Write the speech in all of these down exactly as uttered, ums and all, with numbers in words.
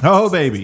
Oh, baby.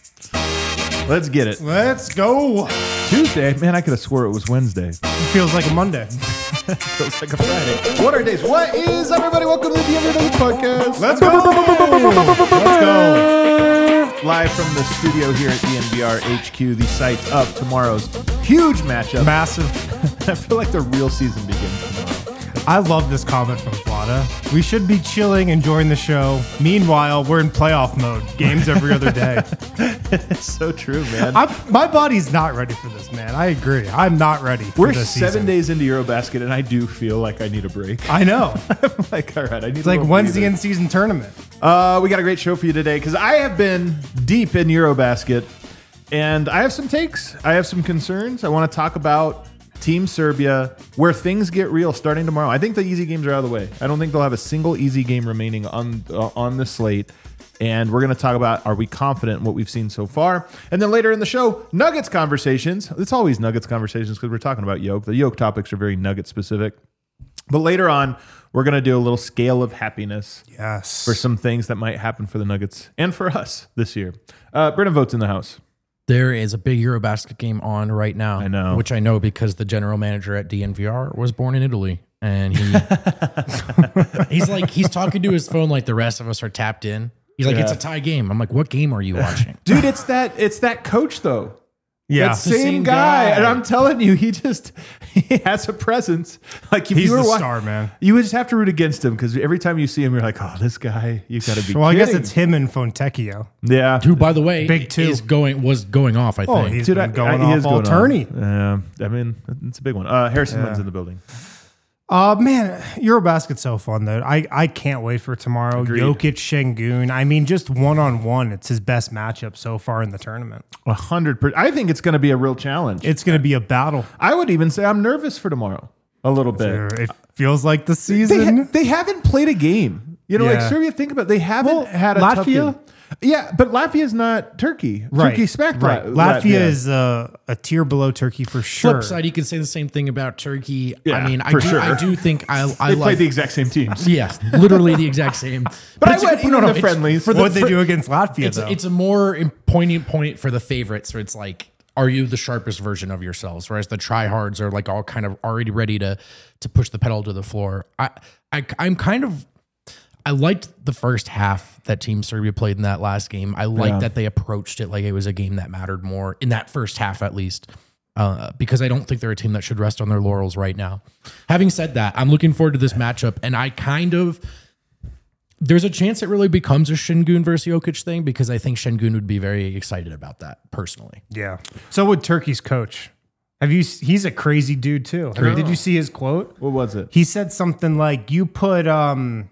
Let's get it. Let's go. Tuesday? Man, I could have swore it was Wednesday. It feels like a Monday. Feels like a Friday. What are days? What is, everybody? Welcome to the Denver Nuggets podcast. Let's go. Let's go. Live from the studio here at D N V R H Q, the site of tomorrow's huge matchup. Massive. I feel like the real season begins tomorrow. I love this comment from Vlada. We should be chilling, enjoying the show. Meanwhile, we're in playoff mode. Games every other day. It's so true, man. I'm, my body's not ready for this, man. I agree. I'm not ready for We're this seven season. days into Eurobasket, and I do feel like I need a break. I know. I'm like, all right, I need It's a like, little when's the breather. in-season tournament? Uh, we got a great show for you today because I have been deep in Eurobasket, and I have some takes. I have some concerns. I want to talk about Team Serbia, where things get real starting tomorrow. I think the easy games are out of the way. I don't think they'll have a single easy game remaining on uh, on the slate. And we're going to talk about, are we confident in what we've seen so far? And then later in the show, Nuggets conversations. It's always Nuggets conversations because we're talking about Yoke. The Yoke topics are very Nugget specific. But later on, we're going to do a little scale of happiness Yes. for some things that might happen for the Nuggets and for us this year. Uh, Brennan Votes in the house. There is a big Eurobasket game on right now. I know. Which I know because the general manager at D N V R was born in Italy. And he he's like, he's talking to his phone like the rest of us are tapped in. He's like, Yeah. it's a tie game. I'm like, what game are you watching? Dude, it's that it's that coach, though. Yeah. That same, same guy. guy. And I'm telling you, he just he has a presence. Like if He's you were the wa- star, man. You would just have to root against him because every time you see him, you're like, oh, this guy, you got to be Well, I kidding. guess it's him and Fontecchio. Yeah. Who, by the way, Big two. is going was going off, I Oh, think. he's Dude, been I- going I- he off is all going on. tourney. Yeah. I mean, it's a big one. Uh, Harrison Yeah. Lynn's in the building. Uh, man, Eurobasket's so fun, though. I, I can't wait for tomorrow. Agreed. Jokic, Şengün. I mean, just one-on-one, it's his best matchup so far in the tournament. A hundred percent. I think it's going to be a real challenge. It's going to be a battle. I would even say I'm nervous for tomorrow a little bit. It feels like the They, season. ha- they haven't played a game. You know, like Yeah. Serbia, think about it. They haven't Well, had a tough Latvia? game. Yeah, but Latvia's not Turkey. Right. Turkey smacked right. La- Latvia is uh, a tier below Turkey for sure. Flip side, you can say the same thing about Turkey. Yeah, I mean, I for do, sure. I do think I, I They like played the exact same teams. yes, literally the exact same. But I it's a went good- even the it's friendlies. for the- What'd they for- do against Latvia, It's though? it's a more poignant point for the favorites, where it's like, are you the sharpest version of yourselves? Whereas the tryhards are like all kind of already ready to to push the pedal to the floor. I, I I'm kind of I liked the first half that Team Serbia played in that last game. I liked Yeah. that they approached it like it was a game that mattered more in that first half, at least. Uh, because I don't think they're a team that should rest on their laurels right now. Having said that, I'm looking forward to this matchup, and I kind of there's a chance it really becomes a Şengün versus Jokic thing because I think Şengün would be very excited about that personally. yeah. So would Turkey's coach. Have you? He's a crazy dude, too. I mean, did you see his quote? What was it? He said something like, you put, um,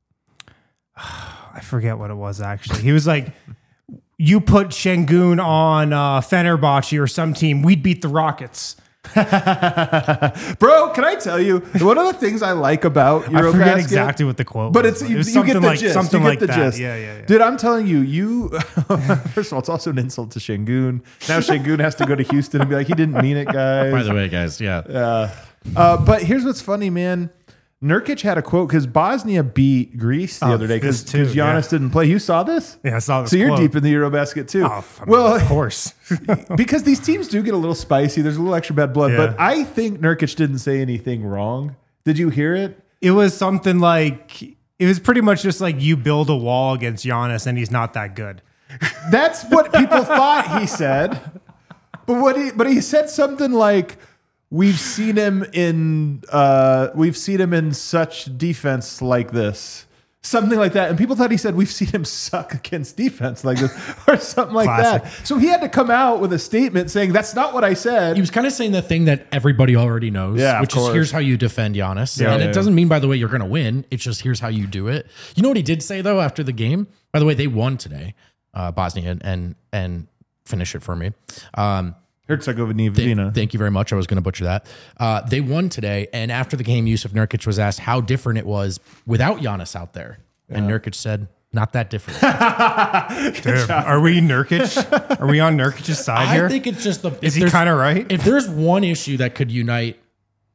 I forget what it was actually. He was like, you put Şengün on uh, Fenerbahce or some team, we'd beat the Rockets. Bro, can I tell you, one of the things I like about Eurobasket, I forget exactly what the quote but was. it's It you, was you something get the like, gist. something you get like the that. gist. Yeah, yeah, yeah. Dude, I'm telling you, you first of all, it's also an insult to Şengün. Now Şengün has to go to Houston and be like, he didn't mean it, guys. By the way, guys, yeah. Uh, uh, but here's what's funny, man. Nurkic had a quote because Bosnia beat Greece the Oh, other day because this too, Giannis yeah. didn't play. You saw this? Yeah, I saw this So you're quote. deep in the Eurobasket too. Oh, I mean, well, of course. because these teams do get a little spicy. There's a little extra bad blood. Yeah. But I think Nurkic didn't say anything wrong. Did you hear it? It was something like, it was pretty much just like you build a wall against Giannis and he's not that good. That's what people thought he said. But what he but he said something like, we've seen him in uh, we've seen him in such defense like this. Something like that. And people thought he said, we've seen him suck against defense like this, or something like Classic. that. So he had to come out with a statement saying, that's not what I said. He was kind of saying the thing that everybody already knows, Yeah, of which is course. here's how you defend Giannis. Yeah, and yeah, it doesn't mean, by the way, you're going to win. It's just here's how you do it. You know what he did say, though, after the game? By the way, they won today, uh, Bosnia, and, and and finish it for me. Um, Herzegovina. Thank, thank you very much. I was going to butcher that. Uh, they won today, and after the game, Yusuf Nurkic was asked how different it was without Giannis out there. And Nurkic said, not that different. Dude, are we Nurkic? Are we on Nurkic's side I here? think it's just the. Is if he there's- kind of right? If there's one issue that could unite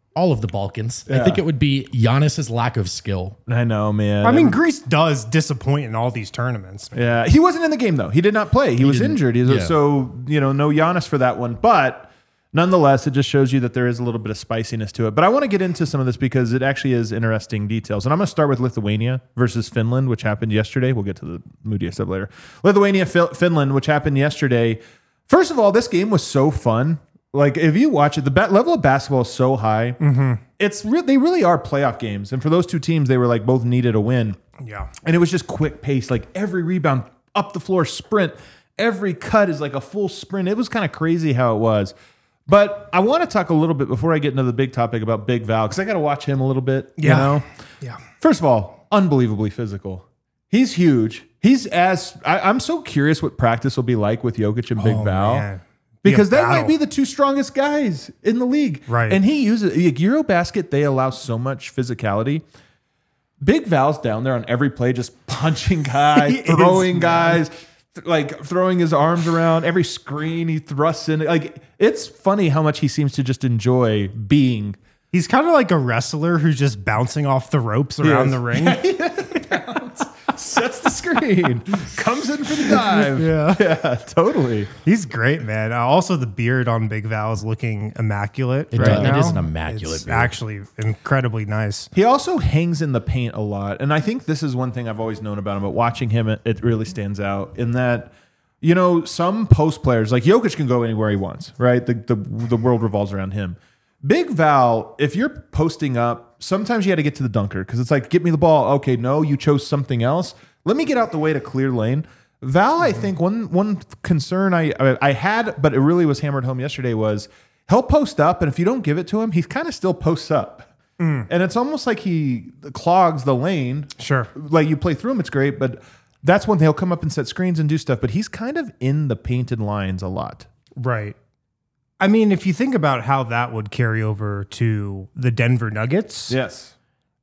all of the Balkans. I think it would be Giannis's lack of skill. I know, man. I mean, Greece does disappoint in all these tournaments. Man. yeah, he wasn't in the game though. He did not play. He, was didn't- injured. He was, yeah. So you know, no Giannis for that one. But nonetheless, it just shows you that there is a little bit of spiciness to it. But I want to get into some of this because it actually is interesting details. And I'm going to start with Lithuania versus Finland, which happened yesterday. We'll get to the moodiest stuff later. Lithuania, Fi- Finland, which happened yesterday. First of all, this game was so fun. Like if you watch it, the ba- level of basketball is so high. Mm-hmm. It's re- they really are playoff games, and for those two teams, they were like both needed a win. Yeah. And it was just quick pace, like every rebound up the floor sprint, every cut is like a full sprint. It was kind of crazy how it was. But I want to talk a little bit before I get into the big topic about Big Val because I got to watch him a little bit. Yeah. You know, Yeah. first of all, unbelievably physical. He's huge. He's as I, I'm so curious what practice will be like with Jokic and Big Oh, Val. man. Because Be a that might battle. be the two strongest guys in the league. Right. And he uses like, Eurobasket, they allow so much physicality. Big Val's down there on every play, just punching guys, He throwing is, guys, th- like throwing his arms around every screen he thrusts in. Like it's funny how much he seems to just enjoy being. He's kind of like a wrestler who's just bouncing off the ropes around is. the ring. Sets the screen, comes in for the dive. Yeah. yeah, totally. He's great, man. Uh, also, the beard on Big Val is looking immaculate It right does- it now. is an immaculate It's beard. actually incredibly nice. He also hangs in the paint a lot. And I think this is one thing I've always known about him, but watching him, it, it really stands out in that, you know, some post players, like Jokic can go anywhere he wants, right? The, the, the world revolves around him. Big Val, if you're posting up, sometimes you got to get to the dunker because it's like, get me the ball. Okay, no, you chose something else. Let me get out the way to clear lane. Val, I think one one concern I I had, but it really was hammered home yesterday was he'll post up, and if you don't give it to him, he kind of still posts up. And it's almost like he clogs the lane. Sure. Like you play through him, it's great, but that's when he'll come up and set screens and do stuff. But he's kind of in the painted lines a lot. Right. I mean, if you think about how that would carry over to the Denver Nuggets, Yes.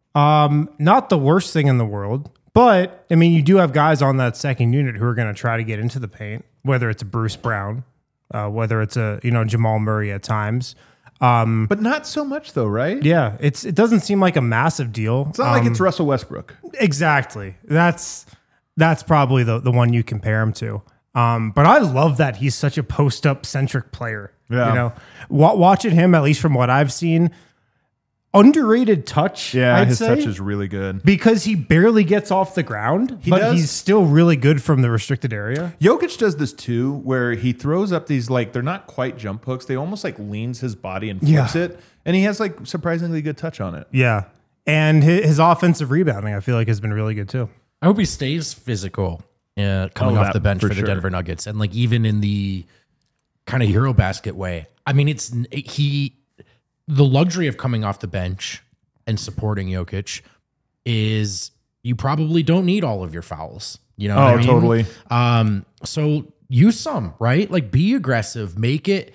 um, not the worst thing in the world. But, I mean, you do have guys on that second unit who are going to try to get into the paint, whether it's a Bruce Brown, uh, whether it's a, you know, Jamal Murray at times. Um, But not so much though, right? yeah, it's it doesn't seem like a massive deal. It's not like it's Russell Westbrook. Exactly. That's that's probably the, the one you compare him to. Um, but I love that he's such a post-up centric player. Yeah. You know, Wa- watching him, at least from what I've seen, underrated touch, Yeah, I'd his say. touch is really good. Because he barely gets off the ground, He but does. he's still really good from the restricted area. Jokic does this too, where he throws up these like they're not quite jump hooks. They almost like leans his body and flips Yeah. it, and he has like surprisingly good touch on it. Yeah. And his, his offensive rebounding, I feel like, has been really good too. I hope he stays physical uh, coming Oh, off that the bench for for, the sure. Denver Nuggets, and like even in the kind of Eurobasket way. I mean, it's he the luxury of coming off the bench and supporting Jokic is you probably don't need all of your fouls. You know, what Oh, I mean? totally. Um, so use some, right? Like be aggressive, make it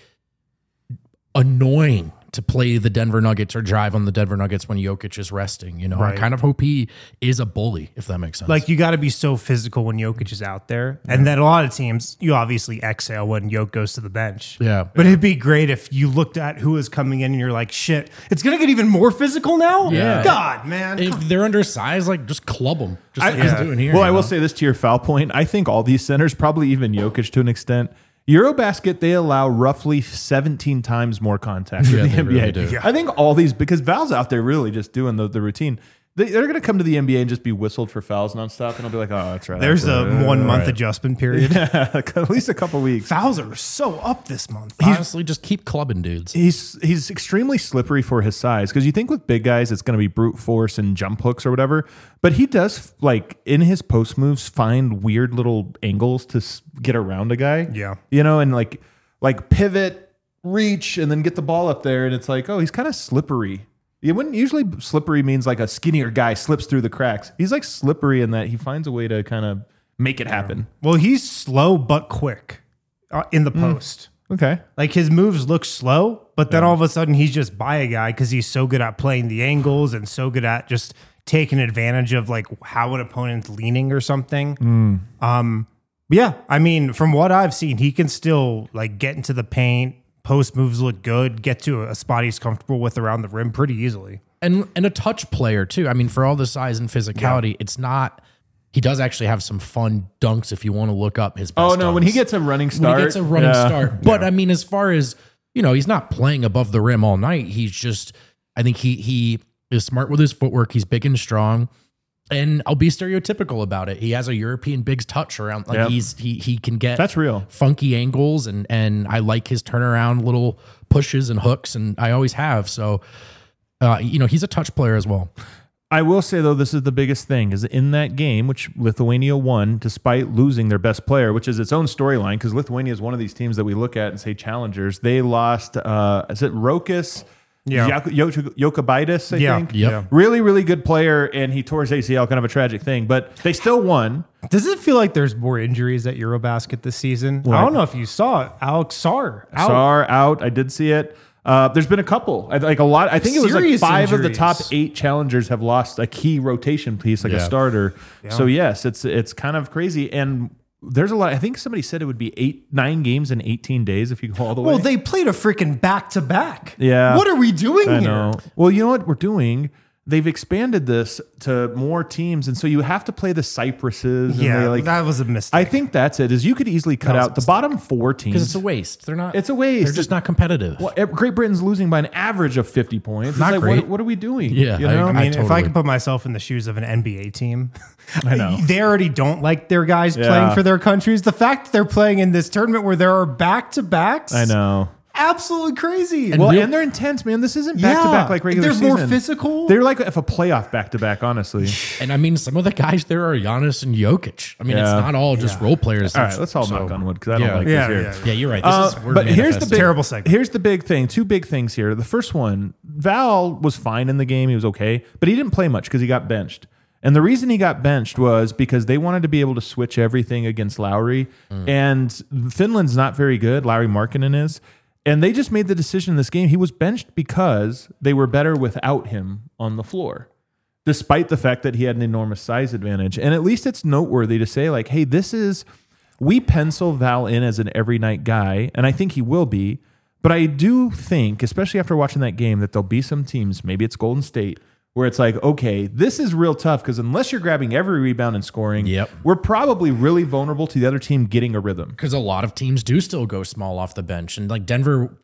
annoying to play the Denver Nuggets or drive on the Denver Nuggets when Jokic is resting. You know, Right. I kind of hope he is a bully, if that makes sense. Like, you got to be so physical when Jokic is out there. And then a lot of teams, you obviously exhale when Jokic goes to the bench. Yeah. But it'd be great if you looked at who is coming in and you're like, shit, it's going to get even more physical now? Yeah. God, man. if they're undersized, like just club them, just like I- he's yeah. doing here. Well, you I will know? say this to your foul point. I think all these centers, probably even Jokic to an extent, Eurobasket, they allow roughly seventeen times more contact Yeah, than they the N B A. really do. Yeah. I think all these, because Val's out there really just doing the, the routine. They, they're going to come to the N B A and just be whistled for fouls nonstop, and I'll be like, oh, that's right. There's that's a right. one month right. adjustment period. At least a couple weeks. Fouls are so up this month. honestly, just keep clubbing dudes. He's he's extremely slippery for his size because you think with big guys it's going to be brute force and jump hooks or whatever, but he does like in his post moves find weird little angles to s- get around a guy. Yeah. you know, and like like pivot, reach, and then get the ball up there, and it's like, oh, he's kind of slippery. You wouldn't usually slippery means like a skinnier guy slips through the cracks. He's like slippery in that he finds a way to kind of make it happen. Well, he's slow but quick uh, in the post. Okay. Like, his moves look slow, but then all of a sudden he's just by a guy because he's so good at playing the angles and so good at just taking advantage of like how an opponent's leaning or something. Um, yeah, I mean, from what I've seen, he can still like get into the paint, post moves look good, get to a spot he's comfortable with around the rim pretty easily. And and a touch player too. I mean, for all the size and physicality, yeah. it's not. He does actually have some fun dunks if you want to look up his best Oh, no, dunks. when he gets a running start. When he gets a running yeah. start. But, yeah. I mean, as far as, you know, he's not playing above the rim all night. He's just, I think he he is smart with his footwork. He's big and strong. And I'll be stereotypical about it. He has a European bigs touch around. Like, yep. he's he he can get That's real. funky angles. And, and I like his turnaround little pushes and hooks. And I always have. So, uh, you know, he's a touch player as well. I will say, though, this is the biggest thing, is in that game, which Lithuania won, despite losing their best player, which is its own storyline, because Lithuania is one of these teams that we look at and say challengers. They lost, uh, is it Rokas yeah. Jokubaitis, I yeah. think? Yep. Yeah. Really, really good player, and he tore his A C L, kind of a tragic thing, but they still won. Does it feel like there's more injuries at Eurobasket this season? What? I don't know if you saw it. Alex Sarr out. Sarr out. I did see it. Uh, there's been a couple, I, like a lot. I think it was like Serious five injuries. of the top eight challengers have lost a key rotation piece, like Yeah. a starter. Yeah. So yes, it's it's kind of crazy. And there's a lot. I think somebody said it would be eight, nine games in eighteen days if you go all the way. Well, they played a freaking back to back. Yeah. What are we doing I here? know. Well, you know what we're doing? They've expanded this to more teams, and so you have to play the Cypresses. And Yeah, they like, that was a mistake. I think that's it. Is you could easily cut out the bottom four teams Because it's a waste. They're not. It's a waste. They're just not competitive. Well, Great Britain's losing by an average of fifty points. It's Not like, great. What, what are we doing? Yeah, you I- know? I mean, if I totally- can put myself in the shoes of an N B A team, I know. they already don't like their guys Yeah. playing for their countries. The fact that they're playing in this tournament where there are back to backs, I know. absolutely crazy. Well, real- and they're intense, man. This isn't back to back like regular They're season. more physical. They're like if a playoff back to back, honestly. And I mean, some of the guys there are Giannis and Jokic. I mean, it's Yeah. not all just role players. All right, let's all So- knock on wood because I don't Yeah. like yeah, this here. yeah, yeah. Yeah, you're right. This Uh, is we're but here's the manifesting. big, Terrible segment. Here's the big thing. Two big things here. The first one, Val was fine in the game. He was okay, but he didn't play much because he got benched. And the reason he got benched was because they wanted to be able to switch everything against Lowry. Mm. And Finland's not very good. Lowry Markkanen is. And they just made the decision in this game. He was benched because they were better without him on the floor, despite the fact that he had an enormous size advantage. And at least it's noteworthy to say, like, hey, this is, we pencil Val in as an every night guy, and I think he will be. But I do think, especially after watching that game, that there'll be some teams, maybe it's Golden State, where it's like, okay, this is real tough because unless you're grabbing every rebound and scoring, Yep. we're probably really vulnerable to the other team getting a rhythm. Because a lot of teams do still go small off the bench. And like Denver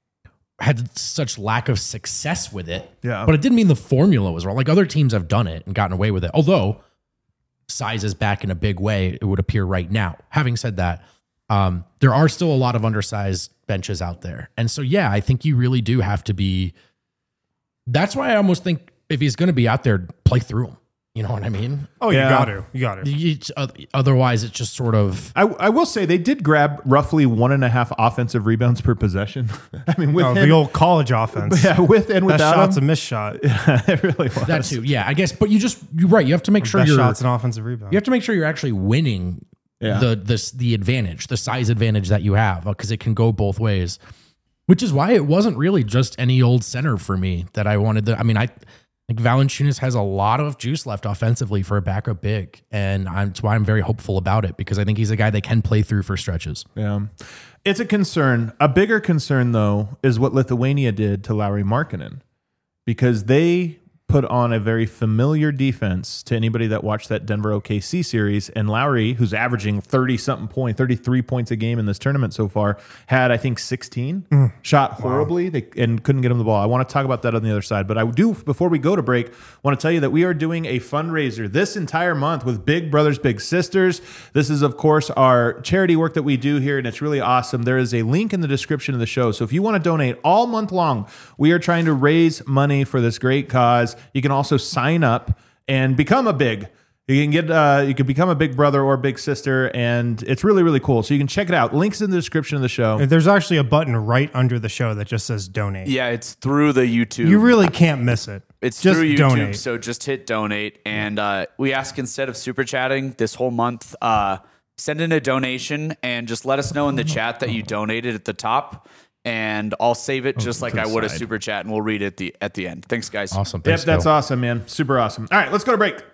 had such lack of success with it. Yeah. But it didn't mean the formula was wrong. Like other teams have done it and gotten away with it. Although size is back in a big way, it would appear right now. Having said that, um, there are still a lot of undersized benches out there. And so, yeah, I think you really do have to be. That's why I almost think if he's going to be out there, play through him. You know what I mean? oh, Yeah. you got to. You got to. You- otherwise, it's just sort of. I, I will say they did grab roughly one and a half offensive rebounds per possession. I mean, with Oh, him, the old college offense. yeah, with and That without shot's him, a missed shot. it really was. That too, yeah. I guess, but you just you're right. You have to make sure Best you're shot's an offensive rebound. you have to make sure you're actually winning Yeah. the this the advantage, the size advantage that you have, because it can go both ways. Which is why it wasn't really just any old center for me that I wanted to. I mean, I think Valanciunas has a lot of juice left offensively for a backup big, and I'm, that's why I'm very hopeful about it because I think he's a guy that can play through for stretches. Yeah. It's a concern. A bigger concern, though, is what Lithuania did to Lowry Markkanen, because they put on a very familiar defense to anybody that watched that Denver O K C series. And Lowry, who's averaging thirty-something point, thirty-three points a game in this tournament so far, had, I think, sixteen. Shot horribly they, and couldn't get him the ball. I want to talk about that on the other side. But I do, before we go to break, want to tell you that we are doing a fundraiser this entire month with Big Brothers Big Sisters. This is, of course, our charity work that we do here, and it's really awesome. There is a link in the description of the show. So if you want to donate all month long, we are trying to raise money for this great cause. You can also sign up and become a big. You can get uh, you can become a big brother or big sister, and it's really, really cool. So you can check it out. Links in the description of the show. There's actually a button right under the show that just says donate. Yeah, it's through the YouTube. You really can't miss it. It's just through YouTube, donate. so just hit donate. And uh, we ask, instead of super chatting this whole month, uh, send in a donation and just let us know in the chat that you donated at the top. And I'll save it just like to I the would a side. super chat, and we'll read it at the, at the end. Thanks, guys. Awesome. Yep, Thanks, that's Phil. awesome, man. Super awesome. All right, let's go to break.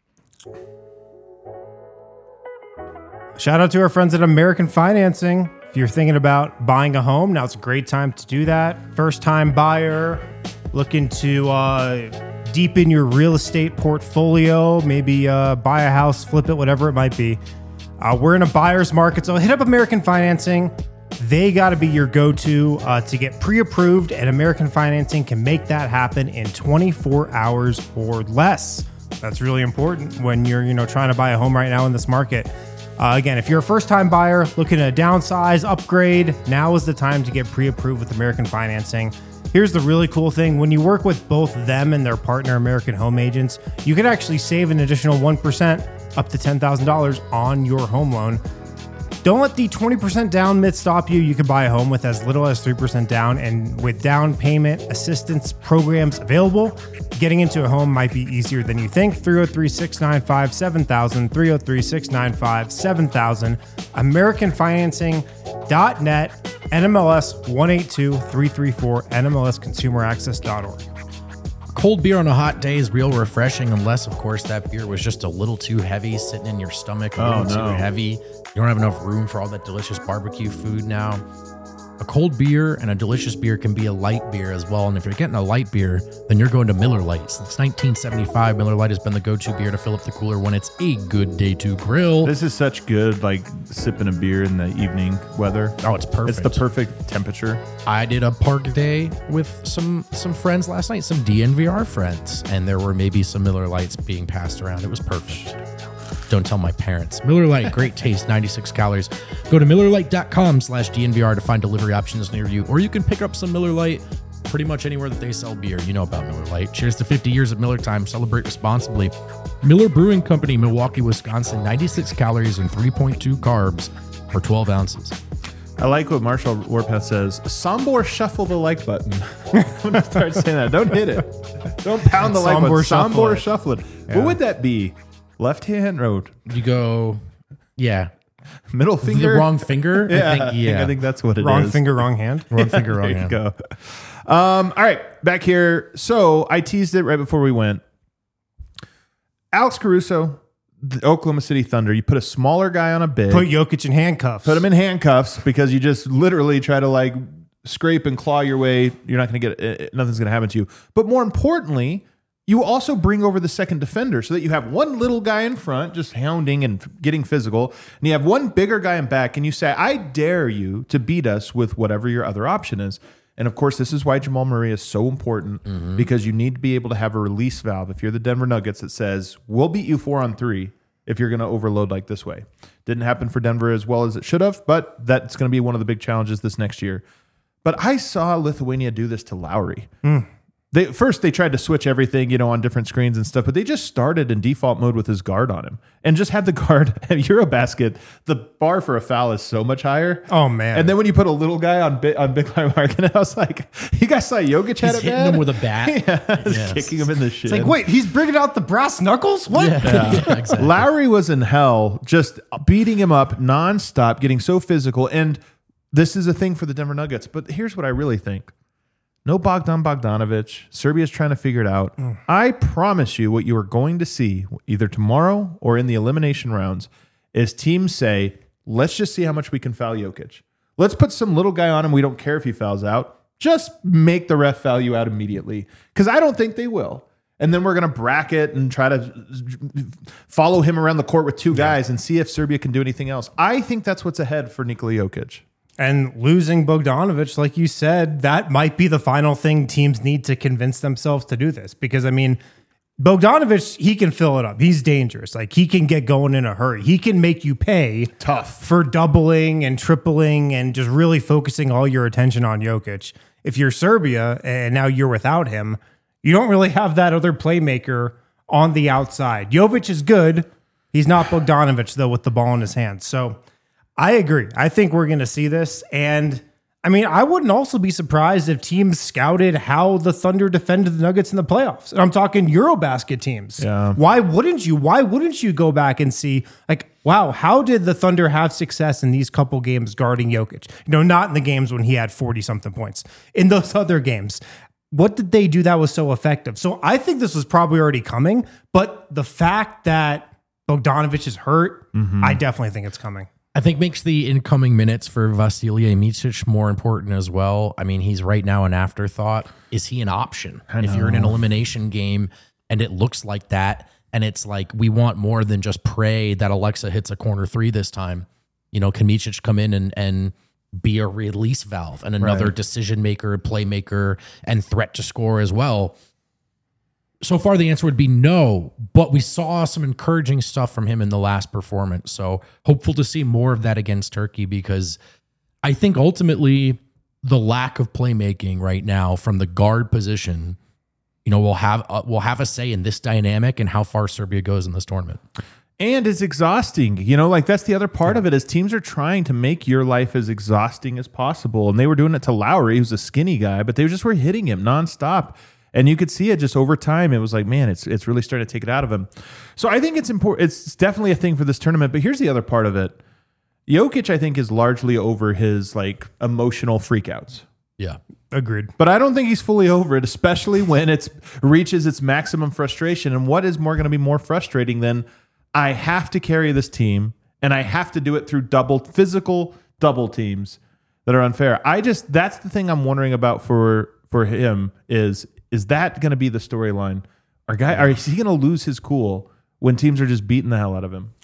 Shout out to our friends at American Financing. If If you're thinking about buying a home, now's a great time to do that. First time buyer, looking to uh, deepen your real estate portfolio, maybe uh, buy a house, flip it, whatever it might be. Uh, we're in a buyer's market, so hit up American Financing. They got to be your go-to uh, to get pre-approved, and American Financing can make that happen in twenty-four hours or less. That's really important when you're, you know, trying to buy a home right now in this market. Uh, again, if you're a first-time buyer looking to downsize, upgrade, now is the time to get pre-approved with American Financing. Here's the really cool thing. When you work with both them and their partner, American Home Agents, you can actually save an additional one percent up to ten thousand dollars on your home loan. Don't let the twenty percent down myth stop you. You can buy a home with as little as three percent down, and with down payment assistance programs available, getting into a home might be easier than you think. three oh three, six nine five, seven thousand, three oh three, six nine five, seven thousand, American Financing dot net, N M L S one eight two three three four, N M L S consumer access dot org. Cold beer on a hot day is real refreshing, unless, of course, that beer was just a little too heavy, sitting in your stomach, a Oh, little no. too heavy. You don't have enough room for all that delicious barbecue food now. A cold beer and a delicious beer can be a light beer as well. And if you're getting a light beer, then you're going to Miller Lite. Since nineteen seventy-five, Miller Lite has been the go-to beer to fill up the cooler when it's a good day to grill. This is such good, like sipping a beer in the evening weather. Oh, it's perfect. It's the perfect temperature. I did a park day with some some friends last night, some D N V R friends, and there were maybe some Miller Lights being passed around. It was perfect. Don't tell my parents. Miller Lite, great taste, ninety-six calories. Go to Miller Lite dot com slash D N V R to find delivery options near you, or you can pick up some Miller Lite pretty much anywhere that they sell beer. You know about Miller Lite. Cheers to fifty years of Miller time. Celebrate responsibly. Miller Brewing Company, Milwaukee, Wisconsin, ninety-six calories and three point two carbs for twelve ounces. I like what Marshall Warpath says. Sombor shuffle the like button. I'm gonna start saying that. Don't hit it. Don't pound the like button. Sombor shuffle Sombor it. shuffle it. Yeah. What would that be? Left hand road. You go, yeah. Middle finger. The wrong finger? Yeah, I think, yeah. I think that's what it is. Wrong finger, wrong hand. Wrong finger, wrong There you hand. go. Um, all right, back here. So I teased it right before we went. Alex Caruso, the Oklahoma City Thunder. You put a smaller guy on a big. Put Jokic in handcuffs. Put him in handcuffs because you just literally try to like scrape and claw your way. You're not going to get uh, nothing's going to happen to you. But more importantly, you also bring over the second defender so that you have one little guy in front just hounding and getting physical, and you have one bigger guy in back, and you say, I dare you to beat us with whatever your other option is. And of course, this is why Jamal Murray is so important, Mm-hmm. because you need to be able to have a release valve if you're the Denver Nuggets that says, we'll beat you four on three if you're going to overload like this way. Didn't happen for Denver as well as it should have, but that's going to be one of the big challenges this next year. But I saw Lithuania do this to Lowry. Mm. They first they tried to switch everything, you know, on different screens and stuff, but they just started in default mode with his guard on him and just had the guard at Eurobasket. The bar for a foul is so much higher. Oh, man. And then when you put a little guy on big on big line marking, I was like, you guys saw Jokic had He's it hitting bad? him with a bat. yeah, just Yes. kicking him in the shin. It's like, wait, he's bringing out the brass knuckles? What? Yeah, exactly. Lowry was in hell, just beating him up nonstop, getting so physical. And this is a thing for the Denver Nuggets. But here's what I really think. No Bogdan Bogdanovic. Serbia's trying to figure it out. Mm. I promise you what you are going to see either tomorrow or in the elimination rounds is teams say, let's just see how much we can foul Jokic. Let's put some little guy on him. We don't care if he fouls out. Just make the ref foul you out immediately. Because I don't think they will. And then we're going to bracket and try to follow him around the court with two guys and see if Serbia can do anything else. I think that's what's ahead for Nikola Jokic. And losing Bogdanovic, like you said, that might be the final thing teams need to convince themselves to do this. Because, I mean, Bogdanovic, he can fill it up. He's dangerous. Like, he can get going in a hurry. He can make you pay Tough. for doubling and tripling and just really focusing all your attention on Jokic. If you're Serbia and now you're without him, you don't really have that other playmaker on the outside. Jovic is good. He's not Bogdanovic, though, with the ball in his hands. So I agree. I think we're going to see this. And I mean, I wouldn't also be surprised if teams scouted how the Thunder defended the Nuggets in the playoffs. And I'm talking Eurobasket teams. Yeah. Why wouldn't you? Why wouldn't you go back and see, like, wow, how did the Thunder have success in these couple games guarding Jokic? You know, not in the games when he had forty-something points. In those other games, what did they do that was so effective? So I think this was probably already coming, but the fact that Bogdanovic is hurt, Mm-hmm. I definitely think it's coming. I think makes the incoming minutes for Vasilije Micic more important as well. I mean, he's right now an afterthought. Is he an option? If you're in an elimination game and it looks like that, and it's like we want more than just pray that Alexa hits a corner three this time. You know, can Micic come in and and be a release valve and another Right. decision maker, playmaker, and threat to score as well? So far, the answer would be no, but we saw some encouraging stuff from him in the last performance. So hopeful to see more of that against Turkey, because I think ultimately the lack of playmaking right now from the guard position, you know, will have uh, will have a say in this dynamic and how far Serbia goes in this tournament. And it's exhausting. You know, like that's the other part yeah. of it is teams are trying to make your life as exhausting as possible. And they were doing it to Lowry, who's a skinny guy, but they just were hitting him nonstop. And you could see it just over time. It was like, man, it's it's really starting to take it out of him. So I think it's important. It's definitely a thing for this tournament. But here's the other part of it. Jokic, I think, is largely over his like emotional freakouts. Yeah. Agreed. But I don't think he's fully over it, especially when it reaches its maximum frustration. And what is more going to be more frustrating than I have to carry this team and I have to do it through double physical double teams that are unfair. I just that's the thing I'm wondering about for for him is. Is that going to be the storyline? Our guy, are, is he going to lose his cool when teams are just beating the hell out of him?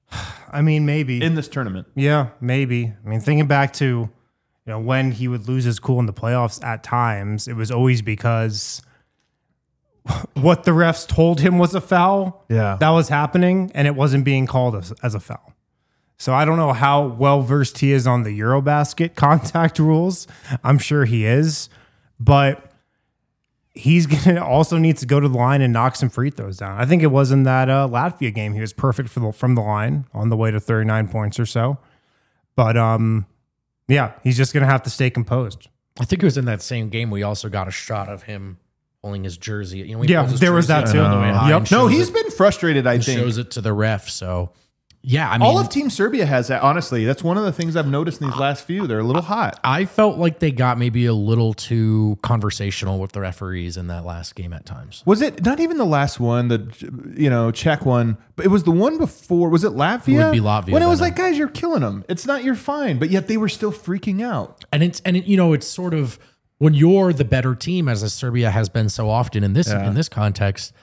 I mean, maybe in this tournament. Yeah, maybe. I mean, thinking back to, you know, when he would lose his cool in the playoffs at times, it was always because what the refs told him was a foul. Yeah, that was happening, and it wasn't being called as, as a foul. So I don't know how well versed he is on the Eurobasket contact rules. I'm sure he is, but he's going to also needs to go to the line and knock some free throws down. I think it was in that uh, Latvia game. He was perfect for the, from the line on the way to thirty-nine points or so. But um, yeah, he's just going to have to stay composed. I think it was in that same game we also got a shot of him pulling his jersey. You know, he yeah, pulls his there was jersey that too. on the way high Yep. and No, shows he's it- been frustrated, I and think. shows it to the ref. So, yeah, I mean, all of Team Serbia has that. Honestly, that's one of the things I've noticed in these last few. They're a little hot. I felt like they got maybe a little too conversational with the referees in that last game at times. Was it not even the last one, the you know Czech one, but it was the one before? Was it Latvia? It would be Latvia When it was then. like, guys, you're killing them. It's not your fine, but yet they were still freaking out. And it's and it, you know, it's sort of when you're the better team, as a Serbia has been so often in this Yeah. in this context.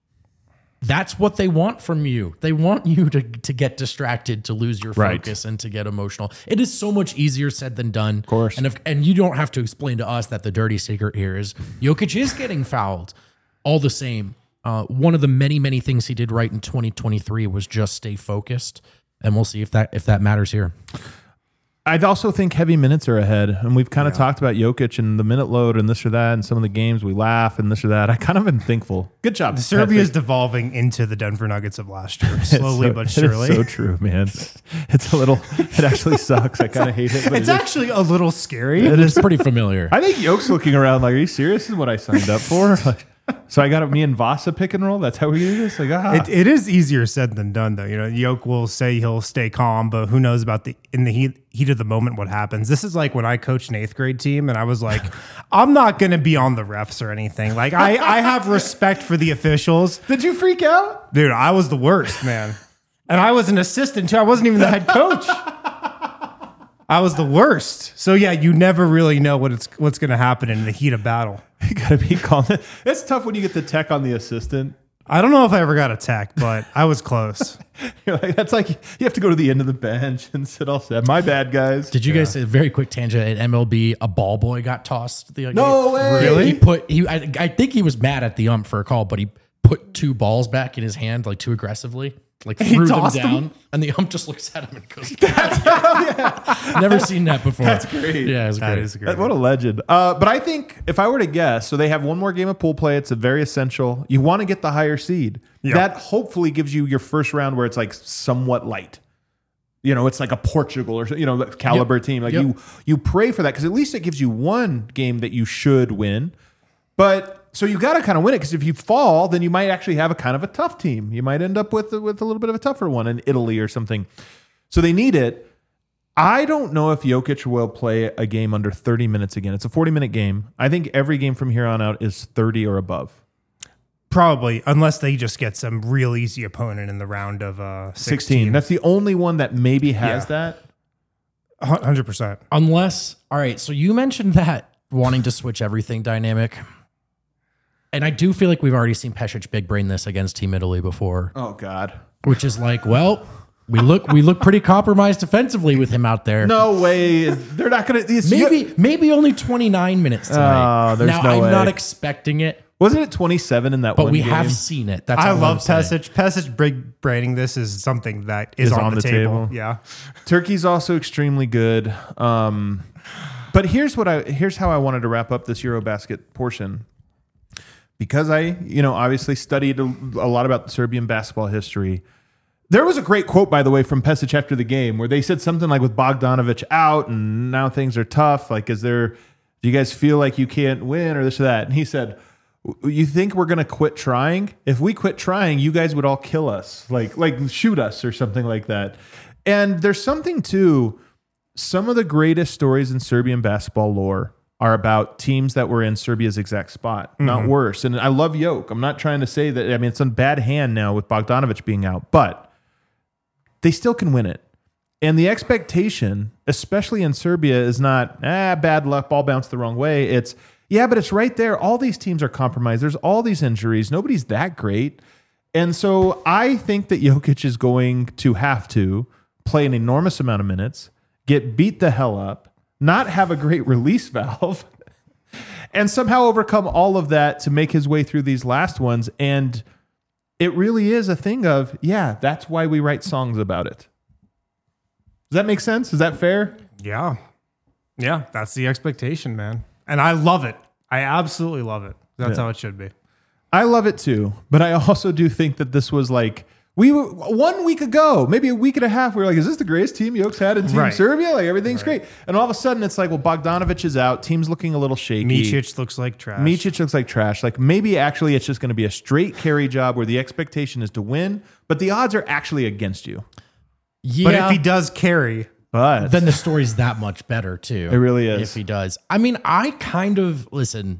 That's what they want from you. They want you to, to get distracted, to lose your Right. focus, and to get emotional. It is so much easier said than done. Of course. And if and you don't have to explain to us that the dirty secret here is Jokic is getting fouled. All the same, uh, one of the many, many things he did right in twenty twenty-three was just stay focused. And we'll see if that if that matters here. I also think heavy minutes are ahead, and we've kind of talked about Jokic and the minute load and this or that, and some of the games we laugh and this or that. I kind of am thankful. Good job, Serbia is Patrick. devolving into the Denver Nuggets of last year, slowly so, but it is surely. so true, man. It's a little. It actually sucks. I kind of hate it. But It's it is- actually a little scary. It is pretty familiar. I think Yoke's looking around like, "Are you serious? This is what I signed up for." Like, so I got me and Vasa pick and roll. That's how we do this. Like, ah. It, it is easier said than done, though. You know, Yoke will say he'll stay calm, but who knows about the in the heat heat of the moment what happens. This is like when I coached an eighth grade team, and I was like, I'm not going to be on the refs or anything. Like, I I have respect for the officials, Did you freak out? dude. I was the worst, man, and I was an assistant too. I wasn't even the head coach. I was the worst. So yeah, you never really know what it's what's going to happen in the heat of battle. You gotta be calm. It's tough when you get the tech on the assistant. I don't know if I ever got a tech, but I was close. You're like, that's like you have to go to the end of the bench and sit all set. My bad, guys. Did you guys say a very quick tangent at M L B? A ball boy got tossed. The No way. Really? He put he. I, I think he was mad at the ump for a call, but he put two balls back in his hand like too aggressively, like He threw them tossed down, them? and the ump just looks at him and goes, "Never seen that before." That's great. Yeah, it's That great. is great. What a legend. Uh, but I think if I were to guess, so they have one more game of pool play. It's a very essential. You want to get the higher seed. Yeah. That hopefully gives you your first round where it's like somewhat light. You know, it's like a Portugal or you know caliber Yep. team. Like Yep. you, you pray for that because at least it gives you one game that you should win. But so you got to kind of win it because if you fall, then you might actually have a kind of a tough team. You might end up with with a little bit of a tougher one in Italy or something. So they need it. I don't know if Jokic will play a game under thirty minutes again. It's a forty minute game. I think every game from here on out is thirty or above. Probably, unless they just get some real easy opponent in the round of uh, sixteen. sixteen. That's the only one that maybe has Yeah. that. one hundred percent. Unless, all right, so you mentioned that wanting to switch everything dynamic. And I do feel like we've already seen Pesic big brain this against Team Italy before. Oh, God. Which is like, well, we look we look pretty compromised defensively with him out there. No way. They're not going to. Maybe maybe only twenty-nine minutes tonight. Oh, there's now, no I'm way. not expecting it. Wasn't it twenty-seven in that But one we game? have seen it. That's I all love I'm saying. Pesic. Pesic big braining this is something that is, Is on, on the, the table. table. Yeah. Turkey's also extremely good. Um, but here's what I here's how I wanted to wrap up this Eurobasket portion. Because I, you know, obviously studied a, a lot about Serbian basketball history. There was a great quote, by the way, from Pesic after the game where they said something like, with Bogdanovic out and now things are tough. Like, is there, do you guys feel like you can't win or this or that? And he said, you think we're going to quit trying? If we quit trying, you guys would all kill us, like, like shoot us or something like that. And there's something to some of the greatest stories in Serbian basketball lore are about teams that were in Serbia's exact spot, mm-hmm. not worse. And I love Jokic. I'm not trying to say that, I mean, it's in bad hand now with Bogdanovic being out, but they still can win it. And the expectation, especially in Serbia, is not, ah, bad luck, ball bounced the wrong way. It's, yeah, but it's right there. All these teams are compromised. There's all these injuries. Nobody's that great. And so I think that Jokic is going to have to play an enormous amount of minutes, get beat the hell up, not have a great release valve, and somehow overcome all of that to make his way through these last ones. And it really is a thing of, yeah, that's why we write songs about it. Does that make sense? Is that fair? Yeah. Yeah. That's the expectation, man. And I love it. I absolutely love it. That's Yeah. how it should be. I love it too. But I also do think that this was like, we were one week ago, maybe a week and a half, we were like, is this the greatest team Jokic's had in Team Right. Serbia? Like, everything's Right. great. And all of a sudden it's like, well, Bogdanovic is out. Team's looking a little shaky. Micic looks like trash. Micic looks like trash. Like, maybe actually it's just going to be a straight carry job where the expectation is to win, but the odds are actually against you. Yeah. But if he does carry, But then the story's that much better too. It really is. If he does. I mean, I kind of listen.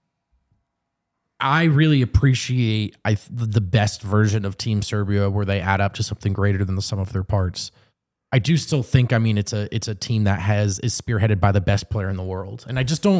I really appreciate I the best version of Team Serbia where they add up to something greater than the sum of their parts. I do still think, I mean, it's a it's a team that has is spearheaded by the best player in the world. And I just don't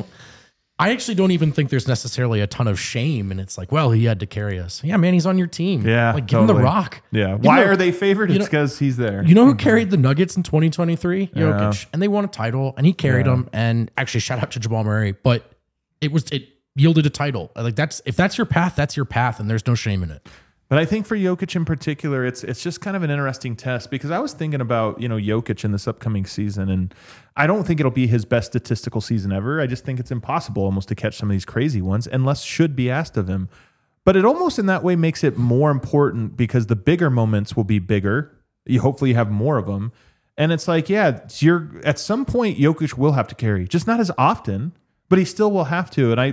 I actually don't even think there's necessarily a ton of shame. And it's like, well, he had to carry us. Yeah, man, he's on your team. Yeah, Like, give him totally. the rock. yeah. You Why know- are they favored? you It's know- because he's there. You know who carried the Nuggets in twenty twenty-three? Yeah. Jokic. And they won a title and he carried Yeah. them. And actually, shout out to Jamal Murray. But it was it yielded a title. Like, that's if that's your path, that's your path, and there's no shame in it. But I think for Jokic in particular, it's it's just kind of an interesting test because I was thinking about, you know, Jokic in this upcoming season, and I don't think it'll be his best statistical season ever. I just think it's impossible almost to catch some of these crazy ones, unless should be asked of him. But it almost in that way makes it more important because the bigger moments will be bigger. You hopefully have more of them. And it's like, yeah, you're at some point Jokic will have to carry, just not as often, but he still will have to. And I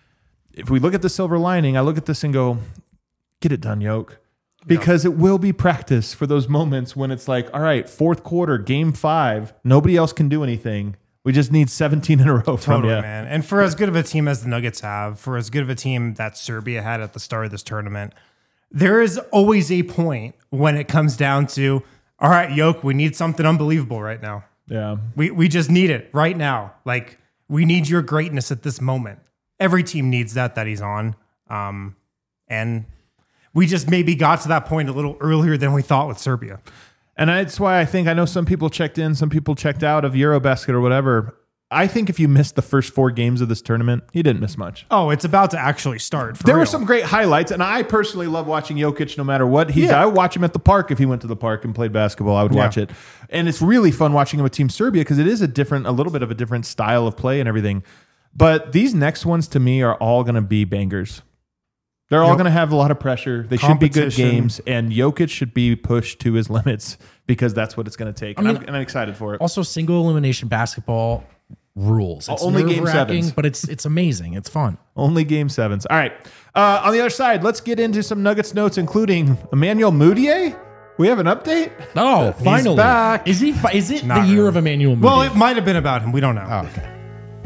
if we look at the silver lining, I look at this and go, get it done, Yoke. Because it will be practice for those moments when it's like, all right, fourth quarter, game five, nobody else can do anything. We just need seventeen in a row from totally, you. man. And for as good of a team as the Nuggets have, for as good of a team that Serbia had at the start of this tournament, there is always a point when it comes down to, all right, Yoke, we need something unbelievable right now. Yeah. We we just need it right now. Like, we need your greatness at this moment. Every team needs that that he's on. Um, and we just maybe got to that point a little earlier than we thought with Serbia. And that's why I think, I know some people checked in, some people checked out of Eurobasket or whatever. I think if you missed the first four games of this tournament, you didn't miss much. Oh, it's about to actually start. For There real. were some great highlights, and I personally love watching Jokic no matter what. He's, Yeah. I would watch him at the park if he went to the park and played basketball. I would watch Yeah. it. And it's really fun watching him with Team Serbia because it is a different, a little bit of a different style of play and everything. But these next ones to me are all going to be bangers. They're all Yep. going to have a lot of pressure. They should be good Competition. games, and Jokic should be pushed to his limits because that's what it's going to take. And I I'm, mean- and I'm excited for it. Also, single elimination basketball rules. It's Only game nerve-wracking, sevens. but it's it's amazing. It's fun. Only game sevens. All right. Uh, on the other side, let's get into some Nuggets notes, including Emmanuel Mudiay. We have an update. Oh, finally! back. Is he? fi- Is it Not the year really. of Emmanuel? Well, Mudiay? it might have been about him. We don't know. Oh, okay.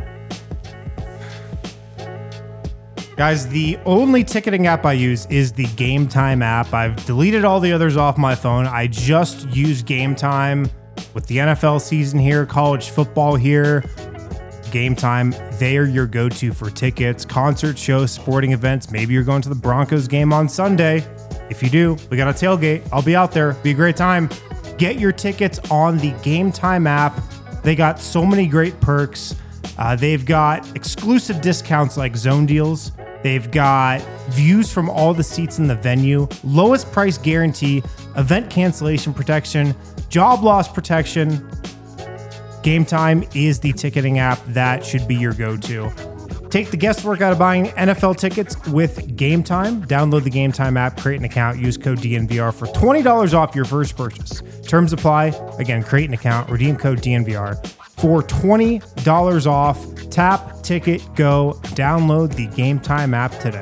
Guys, the only ticketing app I use is the Game Time app. I've deleted all the others off my phone. I just use Game Time with the N F L season here, college football here, Game Time, they are your go-to for tickets, concerts, shows, sporting events. Maybe you're going to the Broncos game on Sunday. If you do, we got a tailgate. I'll be out there. Be a great time. Get your tickets on the Game Time app. They got so many great perks. Uh, they've got exclusive discounts like zone deals. They've got views from all the seats in the venue, lowest price guarantee, event cancellation protection, job loss protection. Game Time is the ticketing app that should be your go-to. Take the guesswork out of buying N F L tickets with Game Time. Download the Game Time app, create an account, use code D N V R for twenty dollars off your first purchase. Terms apply. Again, create an account, redeem code D N V R for twenty dollars off. Tap, ticket, go. Download the Game Time app today.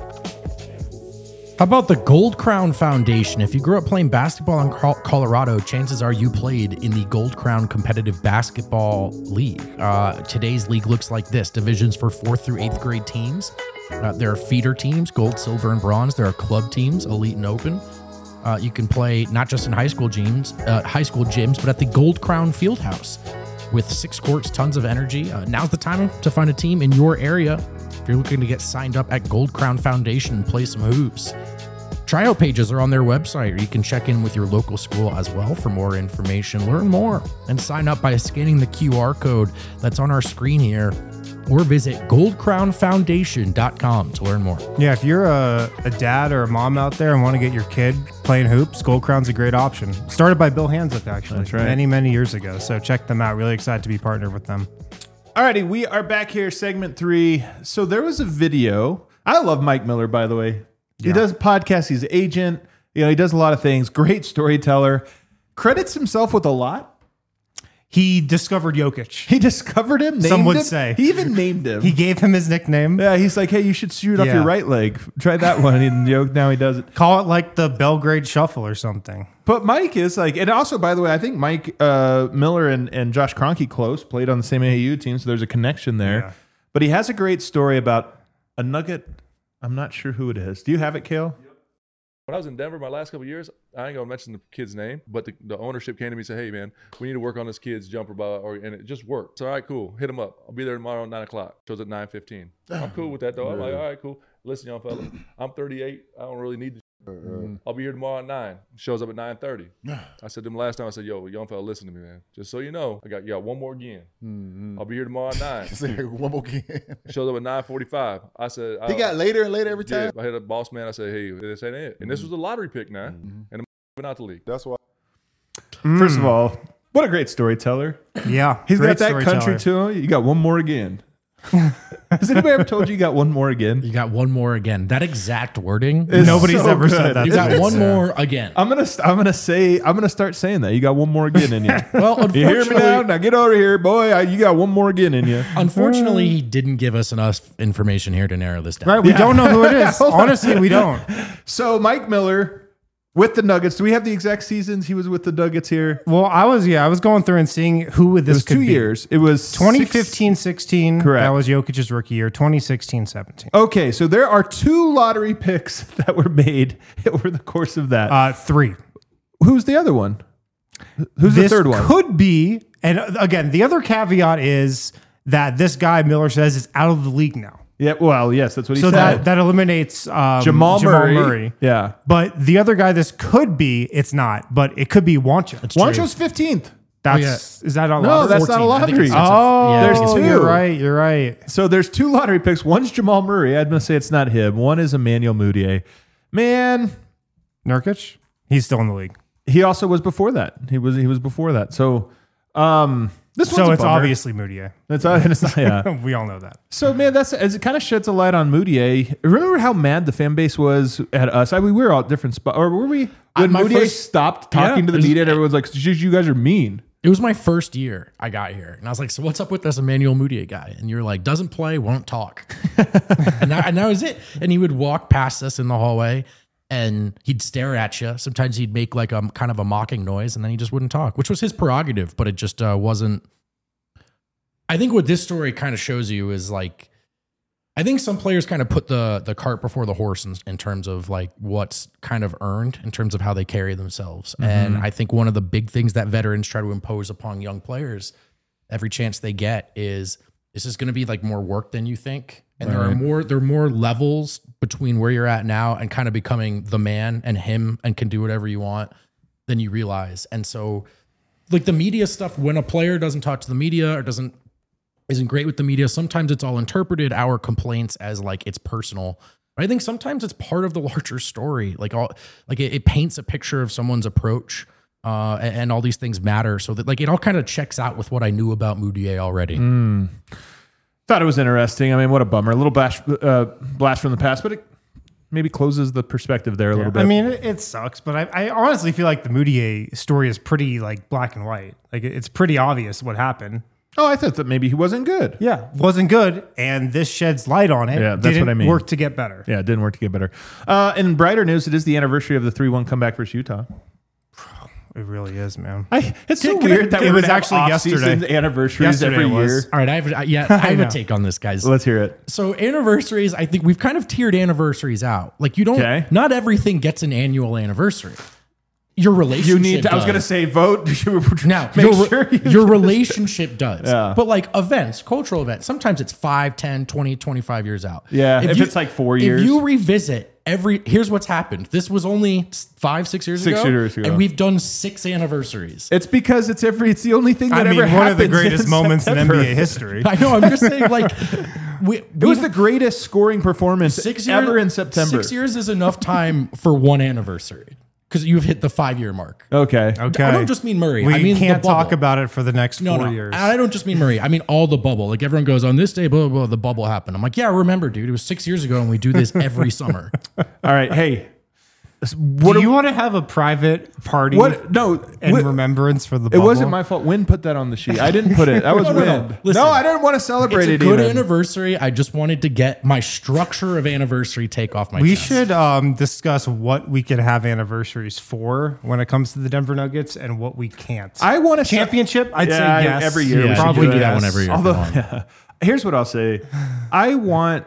How about the Gold Crown Foundation? If you grew up playing basketball in Col- Colorado, chances are you played in the Gold Crown Competitive Basketball League. Uh, today's league looks like this. Divisions for fourth through eighth grade teams. Uh, there are feeder teams, gold, silver, and bronze. There are club teams, elite and open. Uh, you can play not just in high school gyms, uh, high school gyms, but at the Gold Crown Fieldhouse with six courts, tons of energy. Uh, now's the time to find a team in your area. If you're looking to get signed up at Gold Crown Foundation and play some hoops. Tryout pages are on their website, or you can check in with your local school as well for more information. Learn more and sign up by scanning the Q R code that's on our screen here, or visit gold crown foundation dot com to learn more. Yeah, if you're a, a dad or a mom out there and want to get your kid playing hoops, Gold Crown's a great option. Started by Bill Hansick, actually. That's right. Many, many years ago. So check them out. Really excited to be partnered with them. Alrighty, we are back here, segment three. So there was a video. I love Mike Miller, by the way. He Yeah. does podcasts. He's an agent. You know, he does a lot of things. Great storyteller. Credits himself with a lot. He discovered Jokic. He discovered him. Named Some would him. say. He even named him. He gave him his nickname. yeah, he's like, hey, you should shoot off Yeah. your right leg. Try that one. And you know, now he does it. Call it like the Belgrade Shuffle or something. But Mike is like, and also, by the way, I think Mike uh, Miller and, and Josh Kroenke close played on the same A A U team, so there's a connection there. Yeah. But he has a great story about a nugget. I'm not sure who it is. Do you have it, Kale? When I was in Denver my last couple of years, I ain't gonna mention the kid's name, but the, the ownership came to me and said, hey man, we need to work on this kid's jumper ball, or and it just worked. So all right, cool, hit him up. I'll be there tomorrow at nine o'clock. Shows at nine fifteen. I'm cool with that though. I'm like, all right, cool. Listen, young fella, I'm thirty-eight. I don't really need the Mm-hmm. I'll be here tomorrow at nine. Shows up at nine thirty. I said to him last time, I said, yo, young fella, listen to me, man. Just so you know, I got you got one more again. Mm-hmm. I'll be here tomorrow at nine. One more game. Shows up at nine forty-five. I said, He I, got later and later every yeah, time. I hit a boss man. I said, hey, this ain't it. And this was a lottery pick now. Mm-hmm. And I'm out the league. That's why. First of all, what a great storyteller. Yeah. He's great got that country storyteller. to him. You got one more again. Has anybody ever told you you got one more again? You got one more again. That exact wording. It's Nobody's so ever good. said that. You to got me. one more again. I'm gonna I'm gonna say I'm gonna start saying that. You got one more again in you. Well, You hear me unfortunately, now? Now get over here, boy. I, you got one more again in you. unfortunately, he didn't give us enough information here to narrow this down. Right, we don't know who it is. Honestly, we don't. So Mike Miller with the Nuggets. Do we have the exact seasons he was with the Nuggets here? Well, I was yeah, I was going through and seeing who this It was could two be. years. It was twenty six- fifteen sixteen. Correct. That was Jokic's rookie year. twenty sixteen seventeen. Okay, so there are two lottery picks that were made over the course of that. Uh, three. Who's the other one? Who's This the third one? could be, and again, the other caveat is that this guy Miller says is out of the league now. Yeah, well, yes, that's what he So said. that that eliminates um, Jamal, Murray. Yeah. But the other guy this could be, it's not, but it could be Wancha. Wancho's fifteenth. That's is that a No, lottery? that's not a fourteen. I think lottery. it's- that's a- Oh, yeah, I there's think it's- two. You're right. You're right. So there's two lottery picks. One's Jamal Murray. I'm going to say it's not him. One is Emmanuel Mudiay. Man, Nurkic, he's still in the league. he also was before that. He was he was before that. So um this one's So a it's bummer. obviously Moutier. It's, it's not, yeah. We all know that. So man, that's as it kind of sheds a light on Moutier. Remember how mad the fan base was at us? I mean, we were all at different spots, or were we? When my Moutier first- stopped talking Yeah, to the it was- media, and everyone's like, "You guys are mean." It was my first year I got here. And I was like, so what's up with this Emmanuel Mudiay guy? And you're like, doesn't play, won't talk. and, that, and that was it. And he would walk past us in the hallway and he'd stare at you. Sometimes he'd make like a kind of a mocking noise and then he just wouldn't talk, which was his prerogative, but it just uh, wasn't. I think what this story kind of shows you is like, I think some players kind of put the the cart before the horse in, in terms of like what's kind of earned in terms of how they carry themselves. Mm-hmm. And I think one of the big things that veterans try to impose upon young players every chance they get is this is going to be like more work than you think. And right. there are more there are more levels between where you're at now and kind of becoming the man and him and can do whatever you want than you realize. And so like the media stuff, when a player doesn't talk to the media or doesn't isn't great with the media, sometimes it's all interpreted our complaints as like it's personal. But I think sometimes it's part of the larger story. Like all like it, it paints a picture of someone's approach, uh, and, and all these things matter. So that like it all kind of checks out with what I knew about Mudiay already. Mm. Thought it was interesting. I mean, what a bummer. A little blast, uh, blast from the past, but it maybe closes the perspective there a yeah. little bit. I mean, it, it sucks, but I, I honestly feel like the Mudiay story is pretty like black and white. Like it's pretty obvious what happened. Oh, I thought that maybe he wasn't good. Yeah, wasn't good, and this sheds light on it. Yeah, that's didn't what I mean. Work to get better. Yeah, it didn't work to get better. Uh, in brighter news, it is the anniversary of the three one comeback versus Utah. It really is, man. I, it's so Can, weird that it we was would actually have yesterday. Anniversaries yesterday every was. year. All right, I have I, yeah, I have a take on this, guys. Let's hear it. So anniversaries, I think we've kind of tiered anniversaries out. Like you don't, Okay. not everything gets an annual anniversary. Your relationship. You need. To, I was does. going to say vote. Now, make your, sure you your relationship does. Yeah. But like events, cultural events, sometimes it's five, ten, twenty, twenty-five years out. Yeah, if it's like four years. If you revisit every, here's what's happened. This was only five, six years Six ago. years ago. And we've done six anniversaries. It's because it's every. It's the only thing that I mean, ever one happens of the greatest in moments September. in N B A history. I know, I'm just saying like, we, It was the greatest scoring performance six ever years, in September. Six years is enough time for one anniversary. Because you've hit the five year mark. Okay. Okay. I don't just mean Murray. We I mean can't the bubble. talk about it for the next No, four no. years. I don't just mean Murray. I mean all the bubble. Like everyone goes on this day, blah, blah, blah, the bubble happened. I'm like, yeah, remember, dude. It was six years ago and we do this every summer. All right. Hey. What Do you are- want to have a private party What? No. in what- remembrance for the It bubble? wasn't my fault. Win put that on the sheet. I didn't put it. That was No, no, no. Win. Listen, no, I didn't want to celebrate It's a it good even. anniversary. I just wanted to get my structure of anniversary take off my We chest. should um, discuss what we could have anniversaries for when it comes to the Denver Nuggets and what we can't. I want to Championship, I'd Yeah, say yes. every year Yeah, we should probably do that yes. one every year. Although, Come on. yeah. Here's what I'll say. I want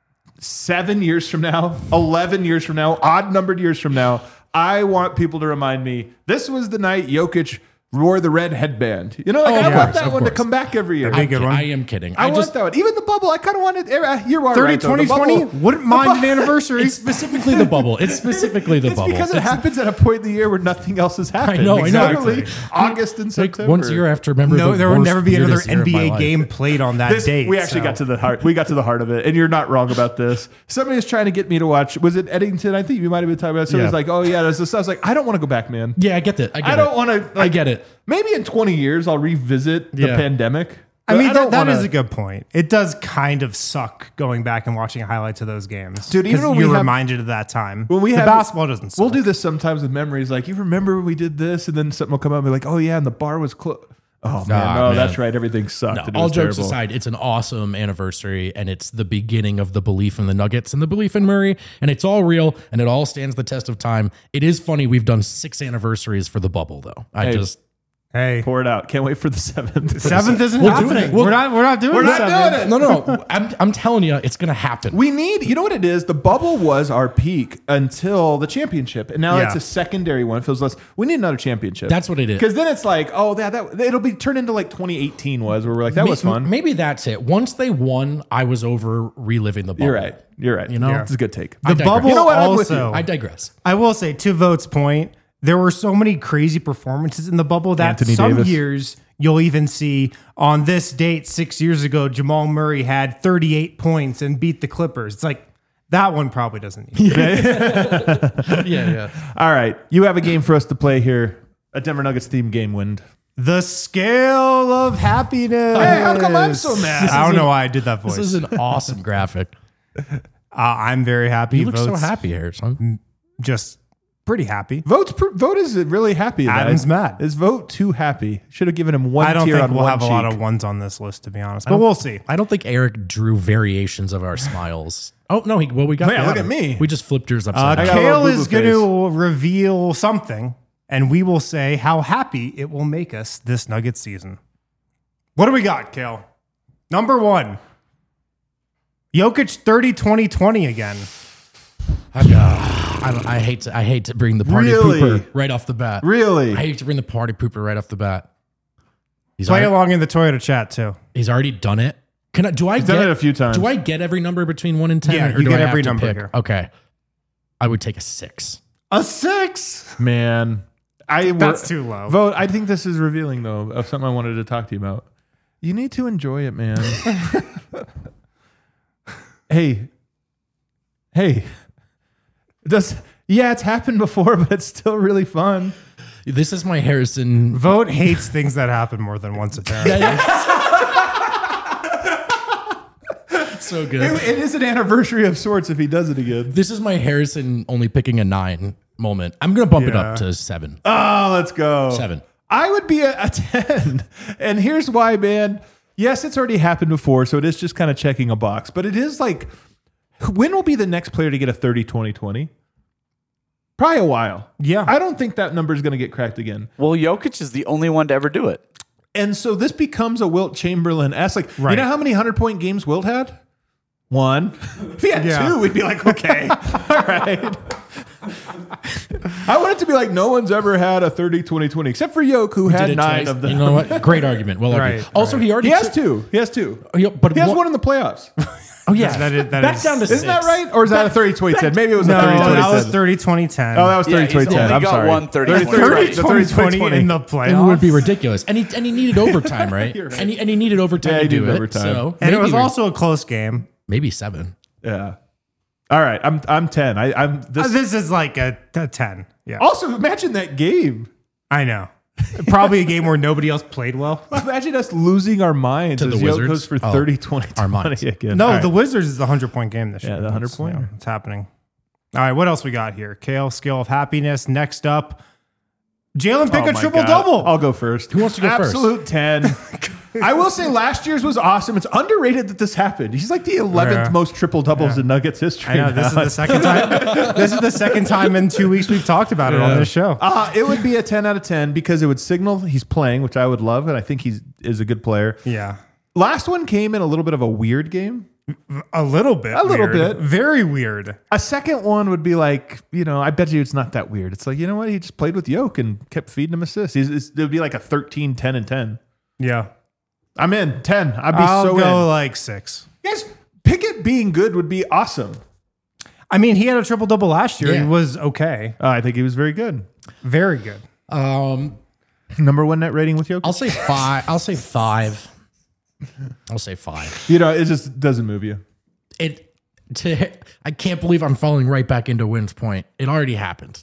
seven years from now, eleven years from now, odd numbered years from now, I want people to remind me this was the night Jokic wore the red headband. You know, like Oh, I of want course, that of one to course. come back every year. That'd be a I'm good ki- one. I am kidding. I, I, want just that one. Even the bubble, I kind of wanted. uh, You're right. thirty, though. twenty, The bubble- twenty? Wouldn't mind an anniversary. it's specifically the bubble. It's specifically the It's bubble. because it happens at a point in the year where nothing else has happened. know, I know. Exactly. Exactly. August and like September. once a year, I have to remember. No, the there would worst, never be another weirdest year N of B my A life. game played on that This, date. we actually so. got to the heart. We got to the heart of it, and you're not wrong about this. Somebody was trying to get me to watch. Was it Eddington? I think you might have been talking about. Somebody's Yeah. like, "Oh yeah, there's this." I was like, "I don't want to go back, man. Yeah, I get that. I, get I don't it. want to. I get it. Maybe in twenty years I'll revisit the Yeah. pandemic. I But mean, don't that, that wanna- is a good point. It does kind of suck going back and watching highlights of those games. Dude, even 'Cause when we you're have- reminded of that time. When we the have- basketball doesn't suck. We'll do this sometimes with memories. Like, you remember when we did this, and then something will come up and be like, "Oh yeah, and the bar was closed." Oh man, Nah, no, man. that's right. Everything sucked. No, and it all was jokes terrible. aside, it's an awesome anniversary, and it's the beginning of the belief in the Nuggets and the belief in Murray, and it's all real, and it all stands the test of time. It is funny we've done six anniversaries for the bubble, though. I Hey, just Hey, Pour it out. Can't wait for the seventh. seventh isn't We'll do happening. it. We'll- we're not. We're not doing. We're the not seventh. doing it. no, no, no. I'm I'm telling you, it's gonna happen. We need, you know what it is? The bubble was our peak until the championship, and now Yeah. it's a secondary one. It feels less. We need another championship. That's what it is. Because then it's like, oh, that that it'll be turned into like twenty eighteen was, where we're like, that was May- fun. Maybe that's it. Once they won, I was over reliving the bubble. You're right. You're right. You know? it's a good take. The digress. bubble You know what? I'm with you. also. I digress. I will say, to Vote's point, there were so many crazy performances in the bubble that Anthony some Davis. years you'll even see on this date six years ago, Jamal Murray had thirty-eight points and beat the Clippers. It's like that one probably doesn't need it. Yeah, yeah. All right, you have a game for us to play here. A Denver Nuggets theme game, Wind. The scale of happiness. Hey, how come I'm so mad? I don't know why I did that voice. This is an awesome graphic. uh, I'm very happy. You look so Vote's happy, Harrison. Just pretty happy. Vote's pr- vote is really happy. About Adam's it. mad. Is vote too happy? Should have given him one I don't tier think on we'll one have cheek. a lot of ones on this list, to be honest, but we'll see. I don't think Eric drew variations of our smiles. Oh no, he well we got. Yeah, the look other. at me. We just flipped yours Uh, upside down. got a little Kale is boo-boo going to reveal something, and we will say how happy it will make us this Nuggets season. What do we got, Kale? Number one. Jokic thirty, twenty, twenty again. I, uh, I, don't- I hate to I hate to bring the party Really? pooper right off the bat. Really? I hate to bring the party pooper right off the bat. He's Play already, along in the Toyota chat too. he's already done it. Can I? Do I He's get done it a few times. Do I get every number between one and ten? Yeah, or you do get I every have to number pick? here. Okay, I would take a six. A six. Man, I That's too low. Vote. I think this is revealing though of something I wanted to talk to you about. You need to enjoy it, man. hey, hey. Does yeah, it's happened before, but it's still really fun. This is my Harrison. Vote hates things that happen more than once apparently. So good. It, it is an anniversary of sorts if he does it again. This is my Harrison only picking a nine moment. I'm gonna bump it Yeah. up to seven. Oh, let's go. Seven. I would be a, a ten. And here's why, man. Yes, it's already happened before, so it is just kind of checking a box. But it is like, when will be the next player to get a thirty, twenty, twenty? Probably a while. Yeah. I don't think that number is going to get cracked again. Well, Jokic is the only one to ever do it. And so this becomes a Wilt Chamberlain-esque. Like, Right. you know how many hundred-point games Wilt had? One. If he had Yeah. two, we'd be like, okay, all right. I want it to be like no one's ever had a thirty, twenty, twenty, except for Yoke, who Did had it nine twice. of them. You know what? Great argument. Well argued. Right, Also, right. he already He has took- two. He has two. Oh, yeah, but He has one- one in the playoffs. Oh yeah, That is- that back is- down to Isn't six. that right? Or is that a thirty, twenty, ten? Maybe it was No, a thirty, twenty, that was ten. thirty, twenty, ten. Oh, that was Yeah, thirty, he's twenty, ten. only I'm got sorry. one thirty, thirty, twenty. thirty, thirty, twenty, twenty twenty. in the And it playoffs. would be ridiculous. And he and he needed overtime, right? And he and he needed overtime Yeah, to he do needed it. overtime. So And it maybe was we're- also a close game. maybe seven. Yeah. All right. I'm I'm ten. I, I'm Uh, this. This is like a, a ten. Yeah. Also, imagine that game. I know. Probably a game where nobody else played well. Imagine us losing our minds To as the Yoke Wizards? goes for Oh, thirty, twenty, our minds. twenty again. No, All right. the Wizards is the hundred-point game this Yeah, year. the That's, hundred-pointer. yeah, it's happening. All right, what else we got here? Kale, Scale of Happiness. Next up, Jalen pick Oh a my triple-double. God. I'll go first. Who wants to go first? Absolute ten. I will say last year's was awesome. It's underrated that this happened. He's like the eleventh Yeah. most triple doubles in Nuggets history. I know, this is now. the second time. This is the second time in two weeks we've talked about it on this show. Uh, it would be a ten out of ten because it would signal he's playing, which I would love, and I think he's is a good player. Yeah. Last one came in a little bit of a weird game. A little bit. A little weird. bit. Very weird. A second one would be like, you know, I bet you it's not that weird. It's like, you know what? He just played with Yoke and kept feeding him assists. He's, it's, it would be like a thirteen, ten, and ten. Yeah. I'm in. ten. I'd be I'll so go in. like six. Guys, Pickett being good would be awesome. I mean, he had a triple-double last year. Yeah. He was okay. Uh, I think he was very good. Very good. Um, Number one net rating with Yoke. I'll say five. I'll say five. I'll say five. You know, it just doesn't move you. It. To, I can't believe I'm falling right back into Wynn's point. It already happened.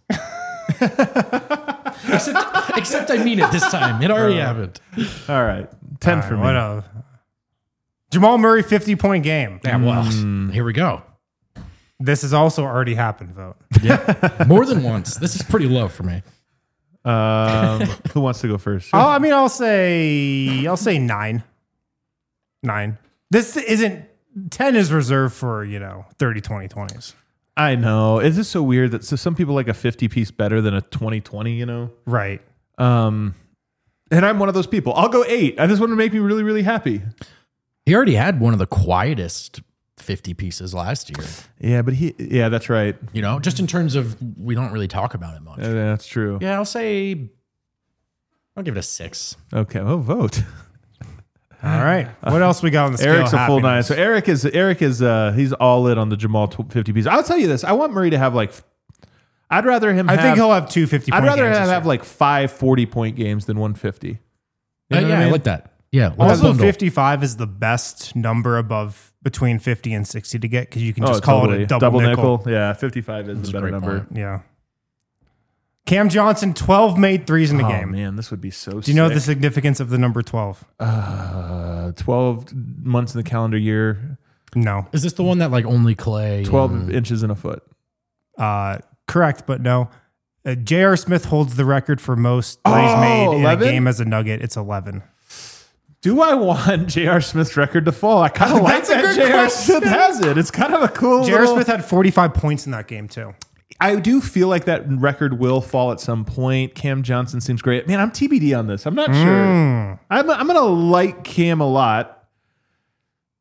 except, except I mean it this time. It already happened. All right. ten All for right, me. what else? Jamal Murray fifty-point game. Yeah. Well, here we go. This has also already happened, vote. Yeah, more than once. This is pretty low for me. Um, who wants to go first? Oh, I mean, I'll say I'll say nine. Nine. This isn't ten is reserved for, you know, thirty, twenty, twenties. I know. It's just so weird that so some people like a fifty piece better than a twenty twenty, you know? Right. Um, and I'm one of those people. I'll go eight. I just want to make me really, really happy. He already had one of the quietest fifty pieces last year. Yeah, but he, yeah, that's right. You know, just in terms of we don't really talk about it much. Uh, that's true. Yeah, I'll say I'll give it a six. Okay. Well, vote. All right. What else we got on the scale? Eric's of a full nine. happiness? So Eric is, Eric is, uh, he's all in on the Jamal tw- fifty piece. I'll tell you this. I want Murray to have like, I'd rather him I have, think he'll have two fifty I'd point rather games have, this have year. like five forty point games than one fifty. You Uh, know yeah, what I, mean? like that. Yeah, let's Also, bundle. fifty-five is the best number above between fifty and sixty to get because you can Oh, just call totally. it a double, nickel. Yeah, fifty-five is That's the a better great number. point. Yeah. Cam Johnson, twelve made threes in the Oh game. man, this would be so. Do you know sick. the significance of the number twelve? Uh, twelve months in the calendar year, No. Is this the one that like only Clay? twelve and- inches in a foot. Uh, correct, but no. Uh, J R. Smith holds the record for most threes Oh, made in eleven? a game as a Nugget. It's eleven. Do I want J R. Smith's record to fall? I kind of like That's a that good J R. question. Smith has it. It's kind of a cool. J R. little- Smith had forty-five points in that game, too. I do feel like that record will fall at some point. Cam Johnson seems great. Man, I'm T B D on this. I'm not Mm. sure. I'm, I'm going to like Cam a lot.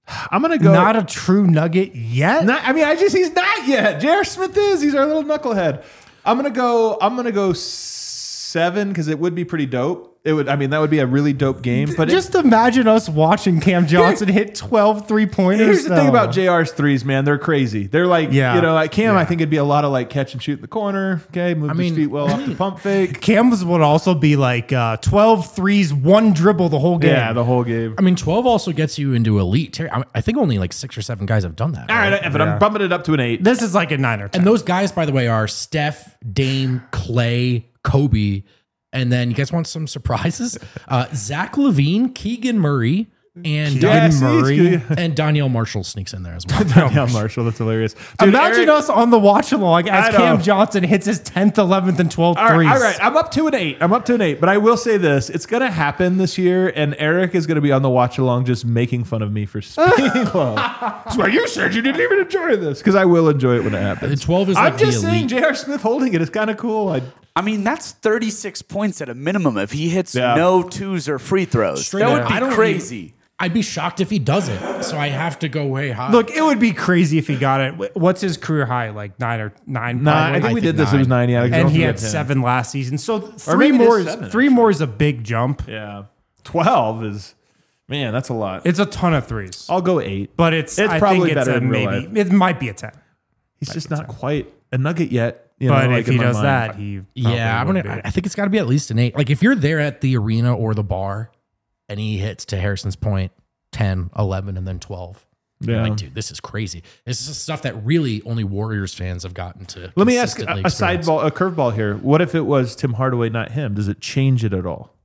I'm gonna go. Not a true nugget yet. Not, I mean, I just he's not yet. J R. Smith is. He's our little knucklehead. I'm gonna go. I'm gonna go seven because it would be pretty dope. It would. I mean, that would be a really dope game. But just it, imagine us watching Cam Johnson hit twelve three pointers. Here's the thing about J R's threes, man. They're crazy. They're like, Yeah. you know, like Cam. Yeah. I think it'd be a lot of like catch and shoot in the corner. Okay, move I his mean- feet well off the pump fake. Cam's would also be like uh, twelve threes, one dribble the whole game. Yeah, the whole game. I mean, twelve also gets you into elite. ter- I I think only like six or seven guys have done that. All right, but Yeah. I'm bumping it up to an eight. This is like a nine or ten. And those guys, by the way, are Steph, Dame, Clay, Kobe. And then you guys want some surprises? Uh, Zach LaVine, Keegan Murray, and Yeah, Don- see, Murray. it's good. and Danielle Marshall sneaks in there as well. Danielle Marshall, that's hilarious. Dude, Imagine Eric- us on the watch along I as know. Cam Johnson hits his tenth, eleventh, and twelfth All right, threes. all right, I'm up to an eight. I'm up to an eight, but I will say this: it's going to happen this year, and Eric is going to be on the watch along, just making fun of me for being low. That's why you said you didn't even enjoy this, because I will enjoy it when it happens. The twelve is I'm like the just saying, elite. J R. Smith holding it is kind of cool. I, I mean, that's thirty-six points at a minimum if he hits Yeah. no twos or free throws. Straight that up, would be I don't crazy. I'd be shocked if he doesn't. So I have to go way high. Look, it would be crazy if he got it. What's his career high? Like nine or nine? nah, I probably? think we I did think this. It was nine. nine. Yeah, I and don't he think had ten. seven last season. So three maybe it is more. Is, seven, three more is a big jump. Yeah, twelve is man. That's a lot. It's a ton of threes, I'll go eight. but it's, It's I probably think it's better a in real maybe. life. It might be a ten. He's just not quite a nugget yet. You But know, like if in he my does mind. that, he yeah, I'm probably gonna. would be. I think it's got to be at least an eight. Like if you're there at the arena or the bar, and he hits to Harrison's point, ten, eleven, and then twelve. You're Yeah. like, dude, this is crazy. This is stuff that really only Warriors fans have gotten to. Let me ask a, consistently a side experience. ball, a curveball here. What if it was Tim Hardaway, not him? Does it change it at all?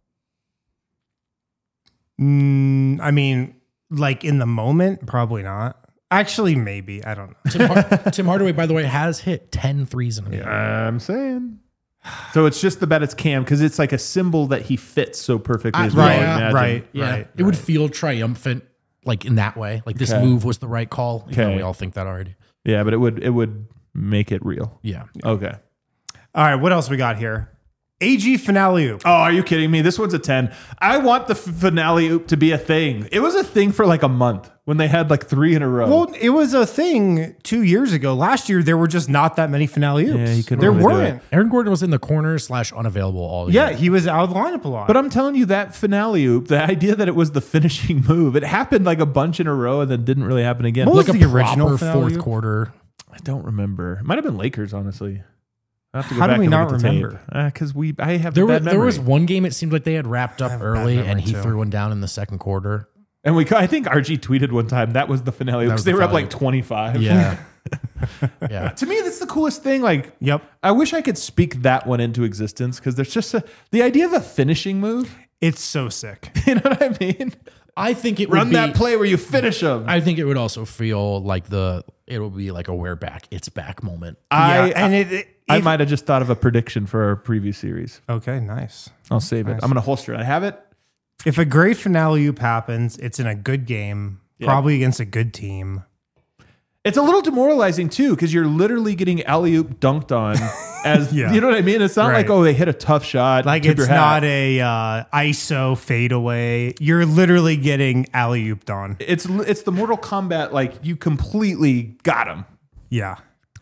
Mm, I mean, like in the moment, probably not. Actually, maybe. I don't know. Tim, Har- Tim Hardaway, by the way, has hit ten threes in a game. I'm saying. So it's just the bet it's Cam because it's like a symbol that he fits so perfectly. As we all right, imagine. right, Yeah, right. it would feel triumphant, like in that way. Like this Okay. move was the right call. Even though Okay. we all think that already. Yeah, but it would it would make it real. Yeah. Okay. All right, what else we got here? A G finale oop. Oh, are you kidding me? This one's a ten. I want the f- finale oop to be a thing. It was a thing for like a month when they had like three in a row. Well, it was a thing two years ago. Last year, there were just not that many finale oops. Yeah, he couldn't there really do weren't. Aaron Gordon was in the corner slash unavailable all Yeah, year. he was out of the lineup a lot. But I'm telling you that finale oop, the idea that it was the finishing move, it happened like a bunch in a row and then didn't really happen again. What was like the a original proper finale fourth oop? quarter. I don't remember. It might have been Lakers, honestly. I have to go How do back we and not look at the tape. remember? Because we, I have There the was bad there memory. was one game. It seemed like they had wrapped up have a bad early, and memory, he too. threw one down in the second quarter. And we, I think R G tweeted one time that was the finale because was they the were up finale. like twenty-five. Yeah, yeah. To me, that's the coolest thing. Like, Yep. I wish I could speak that one into existence because there's just a, the idea of a finishing move. It's so sick. You know what I mean? I think it Run would be, that play where you finish them. I think it would also feel like the it will be like a we're back, it's back moment. I, yeah, and it, it I if- might have just thought of a prediction for our preview series. Okay, nice. I'll save it. I'm going to holster it. I have it. If a great finale oop happens, it's in a good game, probably against a good team. It's a little demoralizing too because you're literally getting alley oop dunked on. As Yeah. you know what I mean? It's not Right. like oh they hit a tough shot. Like tip it's your hat. not a uh, I S O fadeaway. You're literally getting alley ooped on. It's it's the Mortal Kombat like you completely got him. Yeah.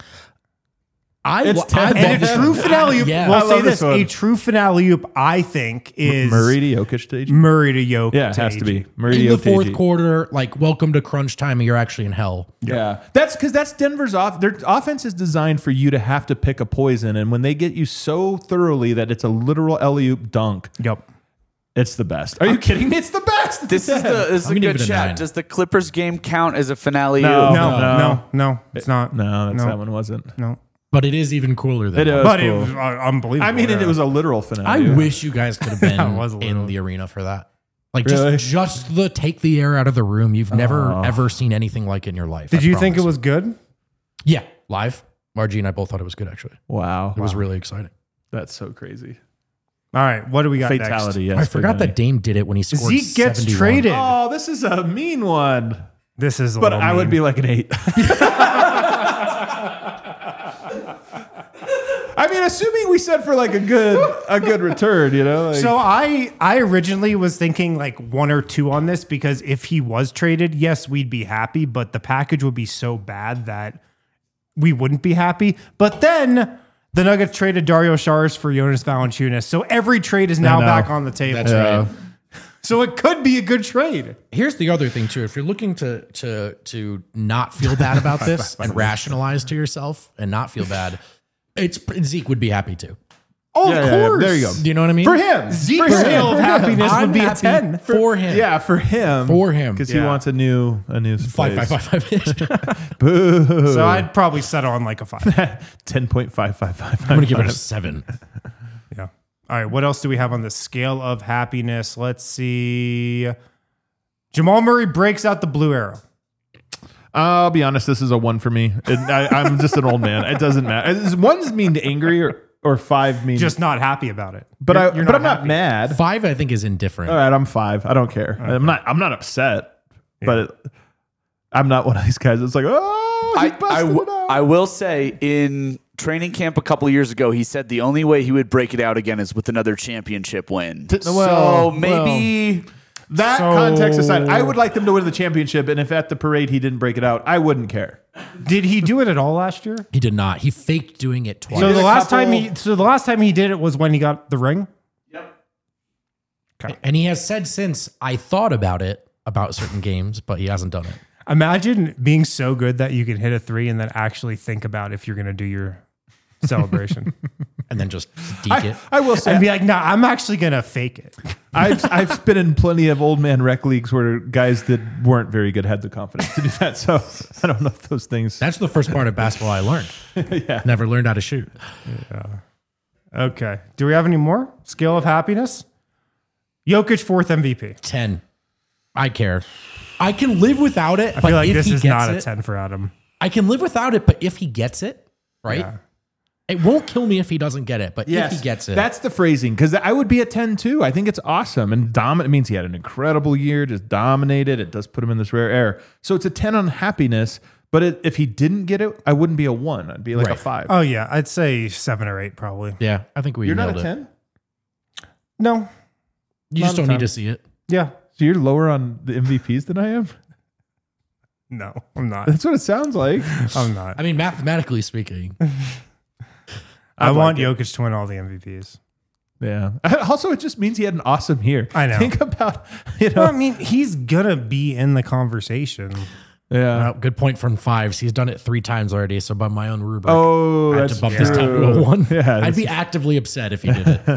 I, It's I ten. love And a this true one. finale oop, Yeah. we'll I say love this, this one. a true finale oop, I think, is Murray to Jokic stage. Murray to Jokic. Yeah, it has to be Murray in to the fourth Jokic. quarter, like welcome to crunch time, and you're actually in hell. Yeah, that's because that's Denver's off. Their offense is designed for you to have to pick a poison, and when they get you so thoroughly that it's a literal alley oop dunk, Yep. it's the best. Are you kidding me? It's the best. It's This a is ten. the this is I'm a gonna good give it a chat. nine. Does the Clippers game count as a finale? No. oop? No, no. no, no, it's not. no, that's, No. that one wasn't. No. But it is even cooler than It that. is But cool. it was uh, unbelievable. I mean, yeah. it was a literal finale. I Yeah. wish you guys could have been That was a in little- the arena for that. Like Really? just just the take the air out of the room. You've never Oh. ever seen anything like it in your life. Did I you think it promise. was good? Yeah, live. Margie and I both thought it was good. Actually, Wow, it was really exciting. that's so crazy. All right, what do we got Fatality. Yes, I forgot finale. that Dame did it when he scored. Zeke gets seventy-one. traded. Oh, this is a mean one. This is a But little I would mean. be like an eight. I I mean, assuming we said for like a good a good return, you know. Like, So I I originally was thinking like one or two on this because if he was traded, yes, we'd be happy, but the package would be so bad that we wouldn't be happy. But then the Nuggets traded Dario Saric for Jonas Valanciunas, so every trade is now know. back on the table. That's right. So it could be a good trade. Here's the other thing too. If you're looking to to to not feel bad about this and rationalize to yourself and not feel bad, it's Zeke would be happy too. Oh, Yeah, of yeah, yeah. course. There you go. Do you know what I mean? for him, Zeke's for him, scale of for him. happiness I'm would be a happy ten. for him. Yeah, for him. For him. because Yeah. he wants a new a new Five, place. five, five, five. Boo. So I'd probably settle on like a five. ten point five five five. I'm gonna give it a seven. Yeah. All right. What else do we have on the scale of happiness? Let's see. Jamal Murray breaks out the blue arrow. I'll be honest. This is a one for me. It, I, I'm just an old man. It doesn't matter. It's- One's mean angry or or five mean. Just not happy about it. but You're- I you're but I'm not happy. mad. Five, I think, is indifferent. All right, I'm five. I don't care. I'm not. I'm not upset. But it, I'm not one of these guys that's like, oh, he I, I, busted w- it out. I will say in training camp a couple of years ago, he said the only way he would break it out again is with another championship win. T- so well, maybe That So- context aside, I would like them to win the championship. And if at the parade he didn't break it out, I wouldn't care. Did he do it at all last year? He did not. He faked doing it twice. So did the a last couple- time he so the last time he did it was when he got the ring. And he has said since, I thought about it, about certain games, but he hasn't done it. Imagine being so good that you can hit a three and then actually think about if you're going to do your celebration And then just deke it. I will say, and be like, "No, I'm actually going to fake it." I've I've been in plenty of old man rec leagues where guys that weren't very good had the confidence to do that. So I don't know if those things. That's the first part of basketball I learned. Yeah. Never learned how to shoot. Okay. Do we have any more? Scale of happiness? Jokic fourth M V P. ten. I care. I can live without it, I but feel like if this he is gets not it, a ten for Adam. I can live without it, but if he gets it, right? Yeah. It won't kill me if he doesn't get it, but if he gets it. That's the phrasing because I would be a ten too. I think it's awesome and dominant. It means he had an incredible year, just dominated. It does put him in this rare air. So it's a ten on happiness. But it, if he didn't get it, I wouldn't be a one. I'd be like Right. a five. Oh yeah, I'd say seven or eight probably. yeah, I think we You're nailed not a it. ten. No. You Not just a don't ten. need to see it. Yeah. So you're lower on the M V Ps than I am. No, I'm not. That's what it sounds like. I'm not. I mean, mathematically speaking, I I'd want like it. Jokic to win all the M V Ps. Yeah. Also, it just means he had an awesome year. I know. Think about you know. Well, I mean, he's gonna be in the conversation. Yeah. well, good point from fives. He's done it three times already. So by my own rubric, Oh, I had that's to bump true. this down to a one. Yeah, I'd that's- be actively upset if he did it.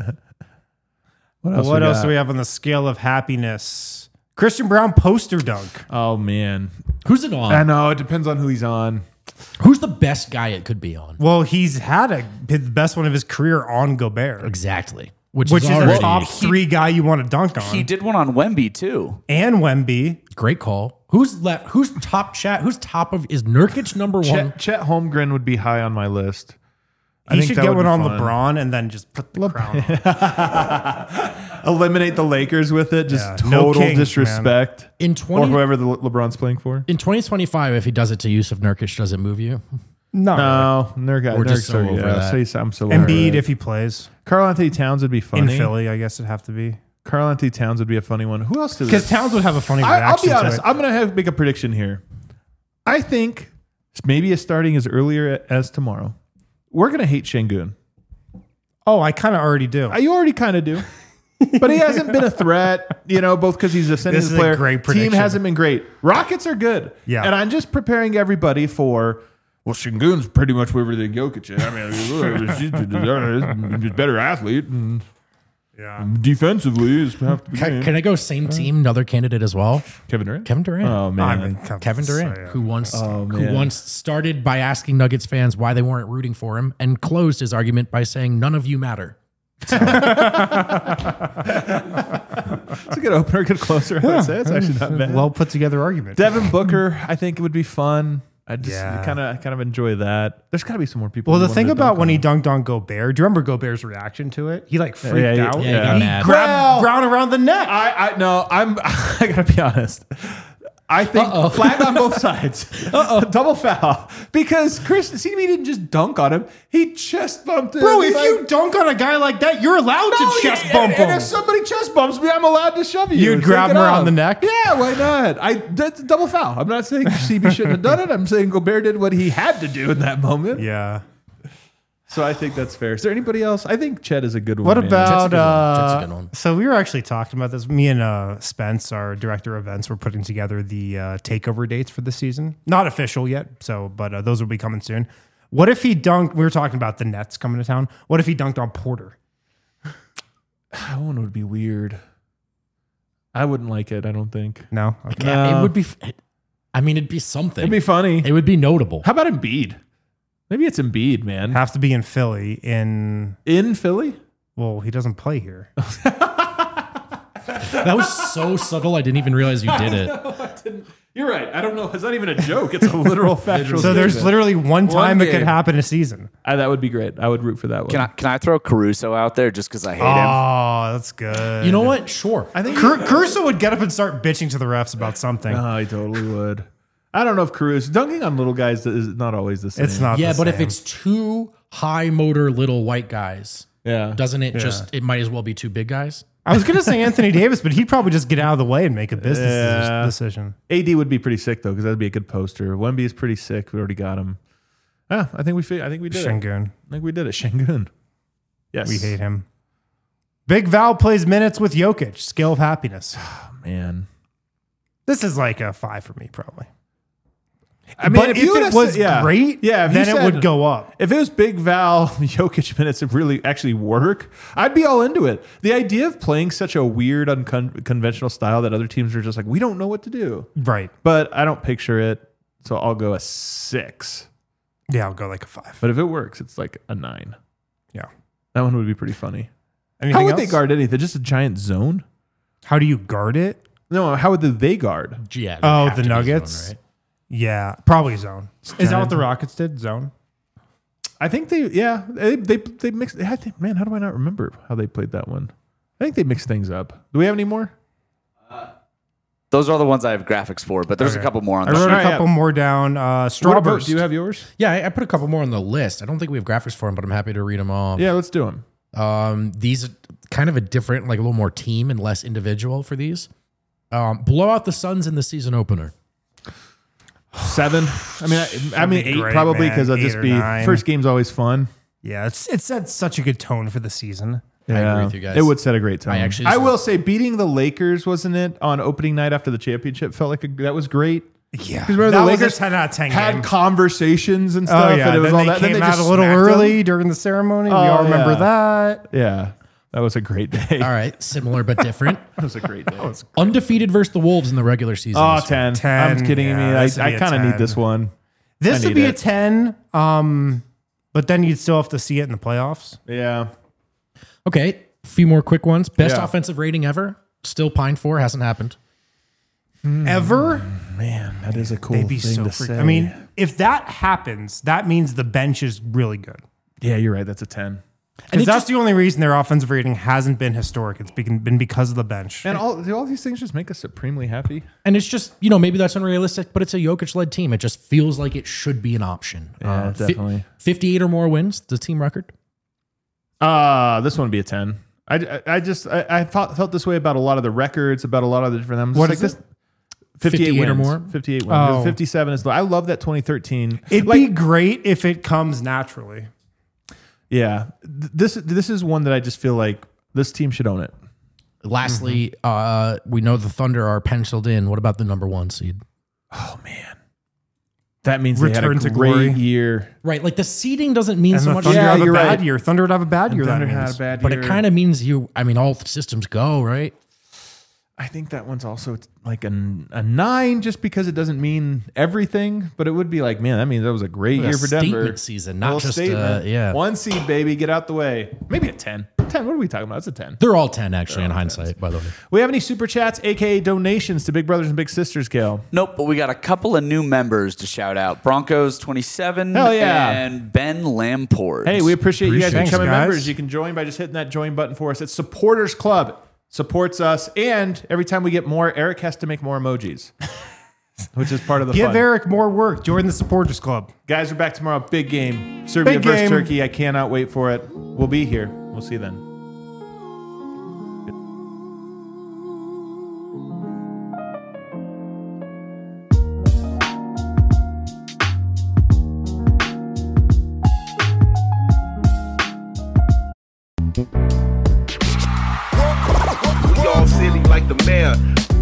What What else? else, we got? do we have on the scale of happiness? Christian Brown poster dunk. Oh man, Who's it on? I know it depends on who he's on. Who's the best guy it could be on? Well, he's had a the best one of his career on Gobert, Exactly. Which, which is, is already a top three guy you want to dunk on. he did one on Wemby too. and Wemby. great call. Who's left? Who's top chat? Who's top of? Is Nurkic number one? Chet, Chet Holmgren would be high on my list. I He think should that get would one be on fun. LeBron and then just put the crown on. Eliminate the Lakers with it. Just Yeah, no total kings, disrespect. In Or twenty whoever the Le- LeBron's playing for. in twenty twenty five, if he does it to Yusuf Nurkic, does it move you? No. No, Nurkic. We're just so Nurkic's- over yeah, that. say- I'm so over Embiid it. if he plays Karl Anthony Towns would be in funny. Philly, I guess it'd have to be. Karl Anthony Towns would be a funny one. Who else does Because this? Towns would have a funny I, reaction I'll be honest. to it. I'm going to have make a prediction here. I think maybe a starting as earlier as tomorrow. We're going to hate Şengün. Oh, I kind of already do. Uh, You already kind of do. But he hasn't been a threat, you know, both because he's a sending This is a player. great Team prediction. hasn't been great. Rockets are good. Yeah. And I'm just preparing everybody for, well, Şengün's pretty much where than Jokic is. I mean, he's a better athlete. And yeah. defensively, is half the Can, game. can I go same team? Another candidate as well. Kevin Durant? Kevin Durant. Oh, man. I mean, come- Kevin Durant, so, yeah. who once Oh, who man. once started by asking Nuggets fans why they weren't rooting for him, and closed his argument by saying none of you matter. It's a good opener, good closer. I would say. It's actually not bad. Well put together argument. Devin Booker, I think it would be fun. I just Yeah. kind of kind of enjoy that. There's got to be some more people. Well, who the wanted thing to about dunk when on he him. dunked on Gobert, do you remember Gobert's reaction to it? He like freaked Yeah, yeah, out. yeah, he got he mad. grabbed Well- Brown around the neck. I, I no, I'm. I gotta be honest. I think Uh-oh. flag on both sides. Uh-oh. Double foul. Because Chris, C B didn't just dunk on him. He chest bumped him. Bro, if Like, you dunk on a guy like that, you're allowed no, to chest yeah, bump and, and him. if somebody chest bumps me, I'm allowed to shove you. You'd Take grab it him around off. the neck? Yeah, why not? I That's a double foul. I'm not saying C B shouldn't have done it. I'm saying Gobert did what he had to do in that moment. Yeah. So I think that's fair. Is there anybody else? I think Chet is a good one. What man. about good one. Jet's a uh, good one. so we were actually talking about this. Me and uh, Spence, our director of events, were putting together the uh, takeover dates for the season. Not official yet, so but uh, those will be coming soon. What if he dunked? We were talking about the Nets coming to town. What if he dunked on Porter? That one would be weird. I wouldn't like it. I don't think. No. Okay. Yeah, No. it would be. f- I mean, it'd be something. It'd be funny. it would be notable. How about Embiid? Maybe it's Embiid, man. Have to be in Philly. In In Philly? well, he doesn't play here. That was so subtle. I didn't even realize you did it. You're right. I don't know. It's not even a joke. It's a literal factual. So there's statement. literally one time it could game. happen a season. Uh, that would be great. I would root for that one. Can I can I throw Caruso out there just because I hate him? Oh, that's good. You know what? Sure. I think. Car- Caruso would get up and start bitching to the refs about something. Oh, he totally would. I don't know if Caruso dunking on little guys is not always the same. It's not. Yeah, the but if same. it's two high motor little white guys, Yeah. doesn't it just? It might as well be two big guys. I was gonna say Anthony Davis, but he'd probably just get out of the way and make a business Yeah. decision. A D would be pretty sick though, because that'd be a good poster. Wemby is pretty sick. We already got him. Yeah, I think we. fi- I think we did it. Şengün. I think we did it. Şengün. Yes. We hate him. Big Val plays minutes with Jokic. Skill of happiness. Man. This is like a five for me, probably. I mean, but if, you it would've was said- yeah. great, Yeah, if you then it said- would go up. If it was Big Val Jokic minutes that really actually work, I'd be all into it. The idea of playing such a weird, unconventional style that other teams are just like, we don't know what to do. Right. But I don't picture it, so I'll go a six. Yeah, I'll go like a five. But if it works, it's like a nine. Yeah. That one would be pretty funny. Anything How would else? they guard anything? Just a giant zone? How do you guard it? No, how would they guard? Yeah. Oh, have the to be zone, Nuggets? right? Yeah, probably zone. Is that what the Rockets did? Zone? I think they, yeah, they they, they mixed. I think, man, how do I not remember how they played that one? I think they mixed things up. Do we have any more? Those are the ones I have graphics for, but there's Okay. a couple more on I the wrote Alright, a couple yeah. more down. Uh, What Strawburst. about- do you have yours? Yeah, I, I put a couple more on the list. I don't think we have graphics for them, but I'm happy to read them off. Yeah, let's do them. Um, these are kind of a different, like a little more team and less individual for these. Um, blow out the Suns in the season opener. Seven. I mean, I, I mean be eight great, probably man. because I'll Eight just or be nine. first game's always fun. Yeah, it's it set such a good tone for the season. I agree with you guys. It would set a great tone. I actually I just- will say, beating the Lakers, wasn't it, on opening night after the championship, felt like a, that was great. Yeah, Because remember that the was Lakers a ten out of ten had game. conversations and stuff, Oh yeah, and it was then all they that. Then came they out just a little smacked early them. during the ceremony. we Oh, all remember yeah. that. Yeah, that was a great day. All right, similar but different. That was a great day. Undefeated versus the Wolves in the regular season. Oh, this year. ten. ten, I'm kidding yeah, me. I, this would I be a kind of need ten. this one. This I would need be a it. ten, um, but then you'd still have to see it in the playoffs. Yeah. Okay, a few more quick ones. Best Yeah. offensive rating ever. Still pined for. Hasn't happened. Ever? Man, that is a cool They'd be thing so to freak- say. I mean, if that happens, that means the bench is really good. yeah, you're right. That's a ten. Because it that's just- the only reason their offensive rating hasn't been historic. It's been been because of the bench. And all do all these things just make us supremely happy. And it's just, you know, maybe that's unrealistic, but it's a Jokic-led team. It just feels like it should be an option. Yeah, fi- definitely. fifty-eight or more wins, the team record. Uh, this one would be a ten. I, I, I just I, I thought, felt this way about a lot of the records, about a lot of the different. I'm just What like is this. it? fifty-eight, fifty-eight or wins. more? fifty-eight wins. Oh. fifty-seven is low. I love that twenty thirteen. It'd like, be great if it comes naturally. yeah. Th- This this is one that I just feel like this team should own it. Lastly, uh, we know the Thunder are penciled in. What about the number one seed? Oh man, that means Return they to had a great glory. year. Right, like the seeding doesn't mean And so the much. Thunder Yeah, have a you're bad right. year. Thunder would have a bad year. Thunder that had means. a bad But year, it kind of means you, I mean, all systems go, right? I think that one's also like a, a nine, just because it doesn't mean everything. But it would be like, man, that means that was a great A year for Denver. statement season, not Little just, uh, statement. yeah. One seed, baby, get out the way. Maybe a ten. Ten. What are we talking about? It's a ten. They're all ten, actually, in hindsight, by the way. We have any super chats, aka donations to Big Brothers and Big Sisters, Gail? Nope, but we got a couple of new members to shout out. Broncos twenty-seven Hell yeah. and Ben Lamport. Hey, we appreciate, you guys Appreciate becoming it, guys. members. You can join by just hitting that join button for us. It's Supporters Club. Supports us, and every time we get more, Eric has to make more emojis. which is part of the Give fun. Eric more work. Join the supporters club. Guys, we're back tomorrow. Big game. Serbia Big versus game. Turkey. I cannot wait for it. We'll be here. We'll see you then. We all silly like the mayor.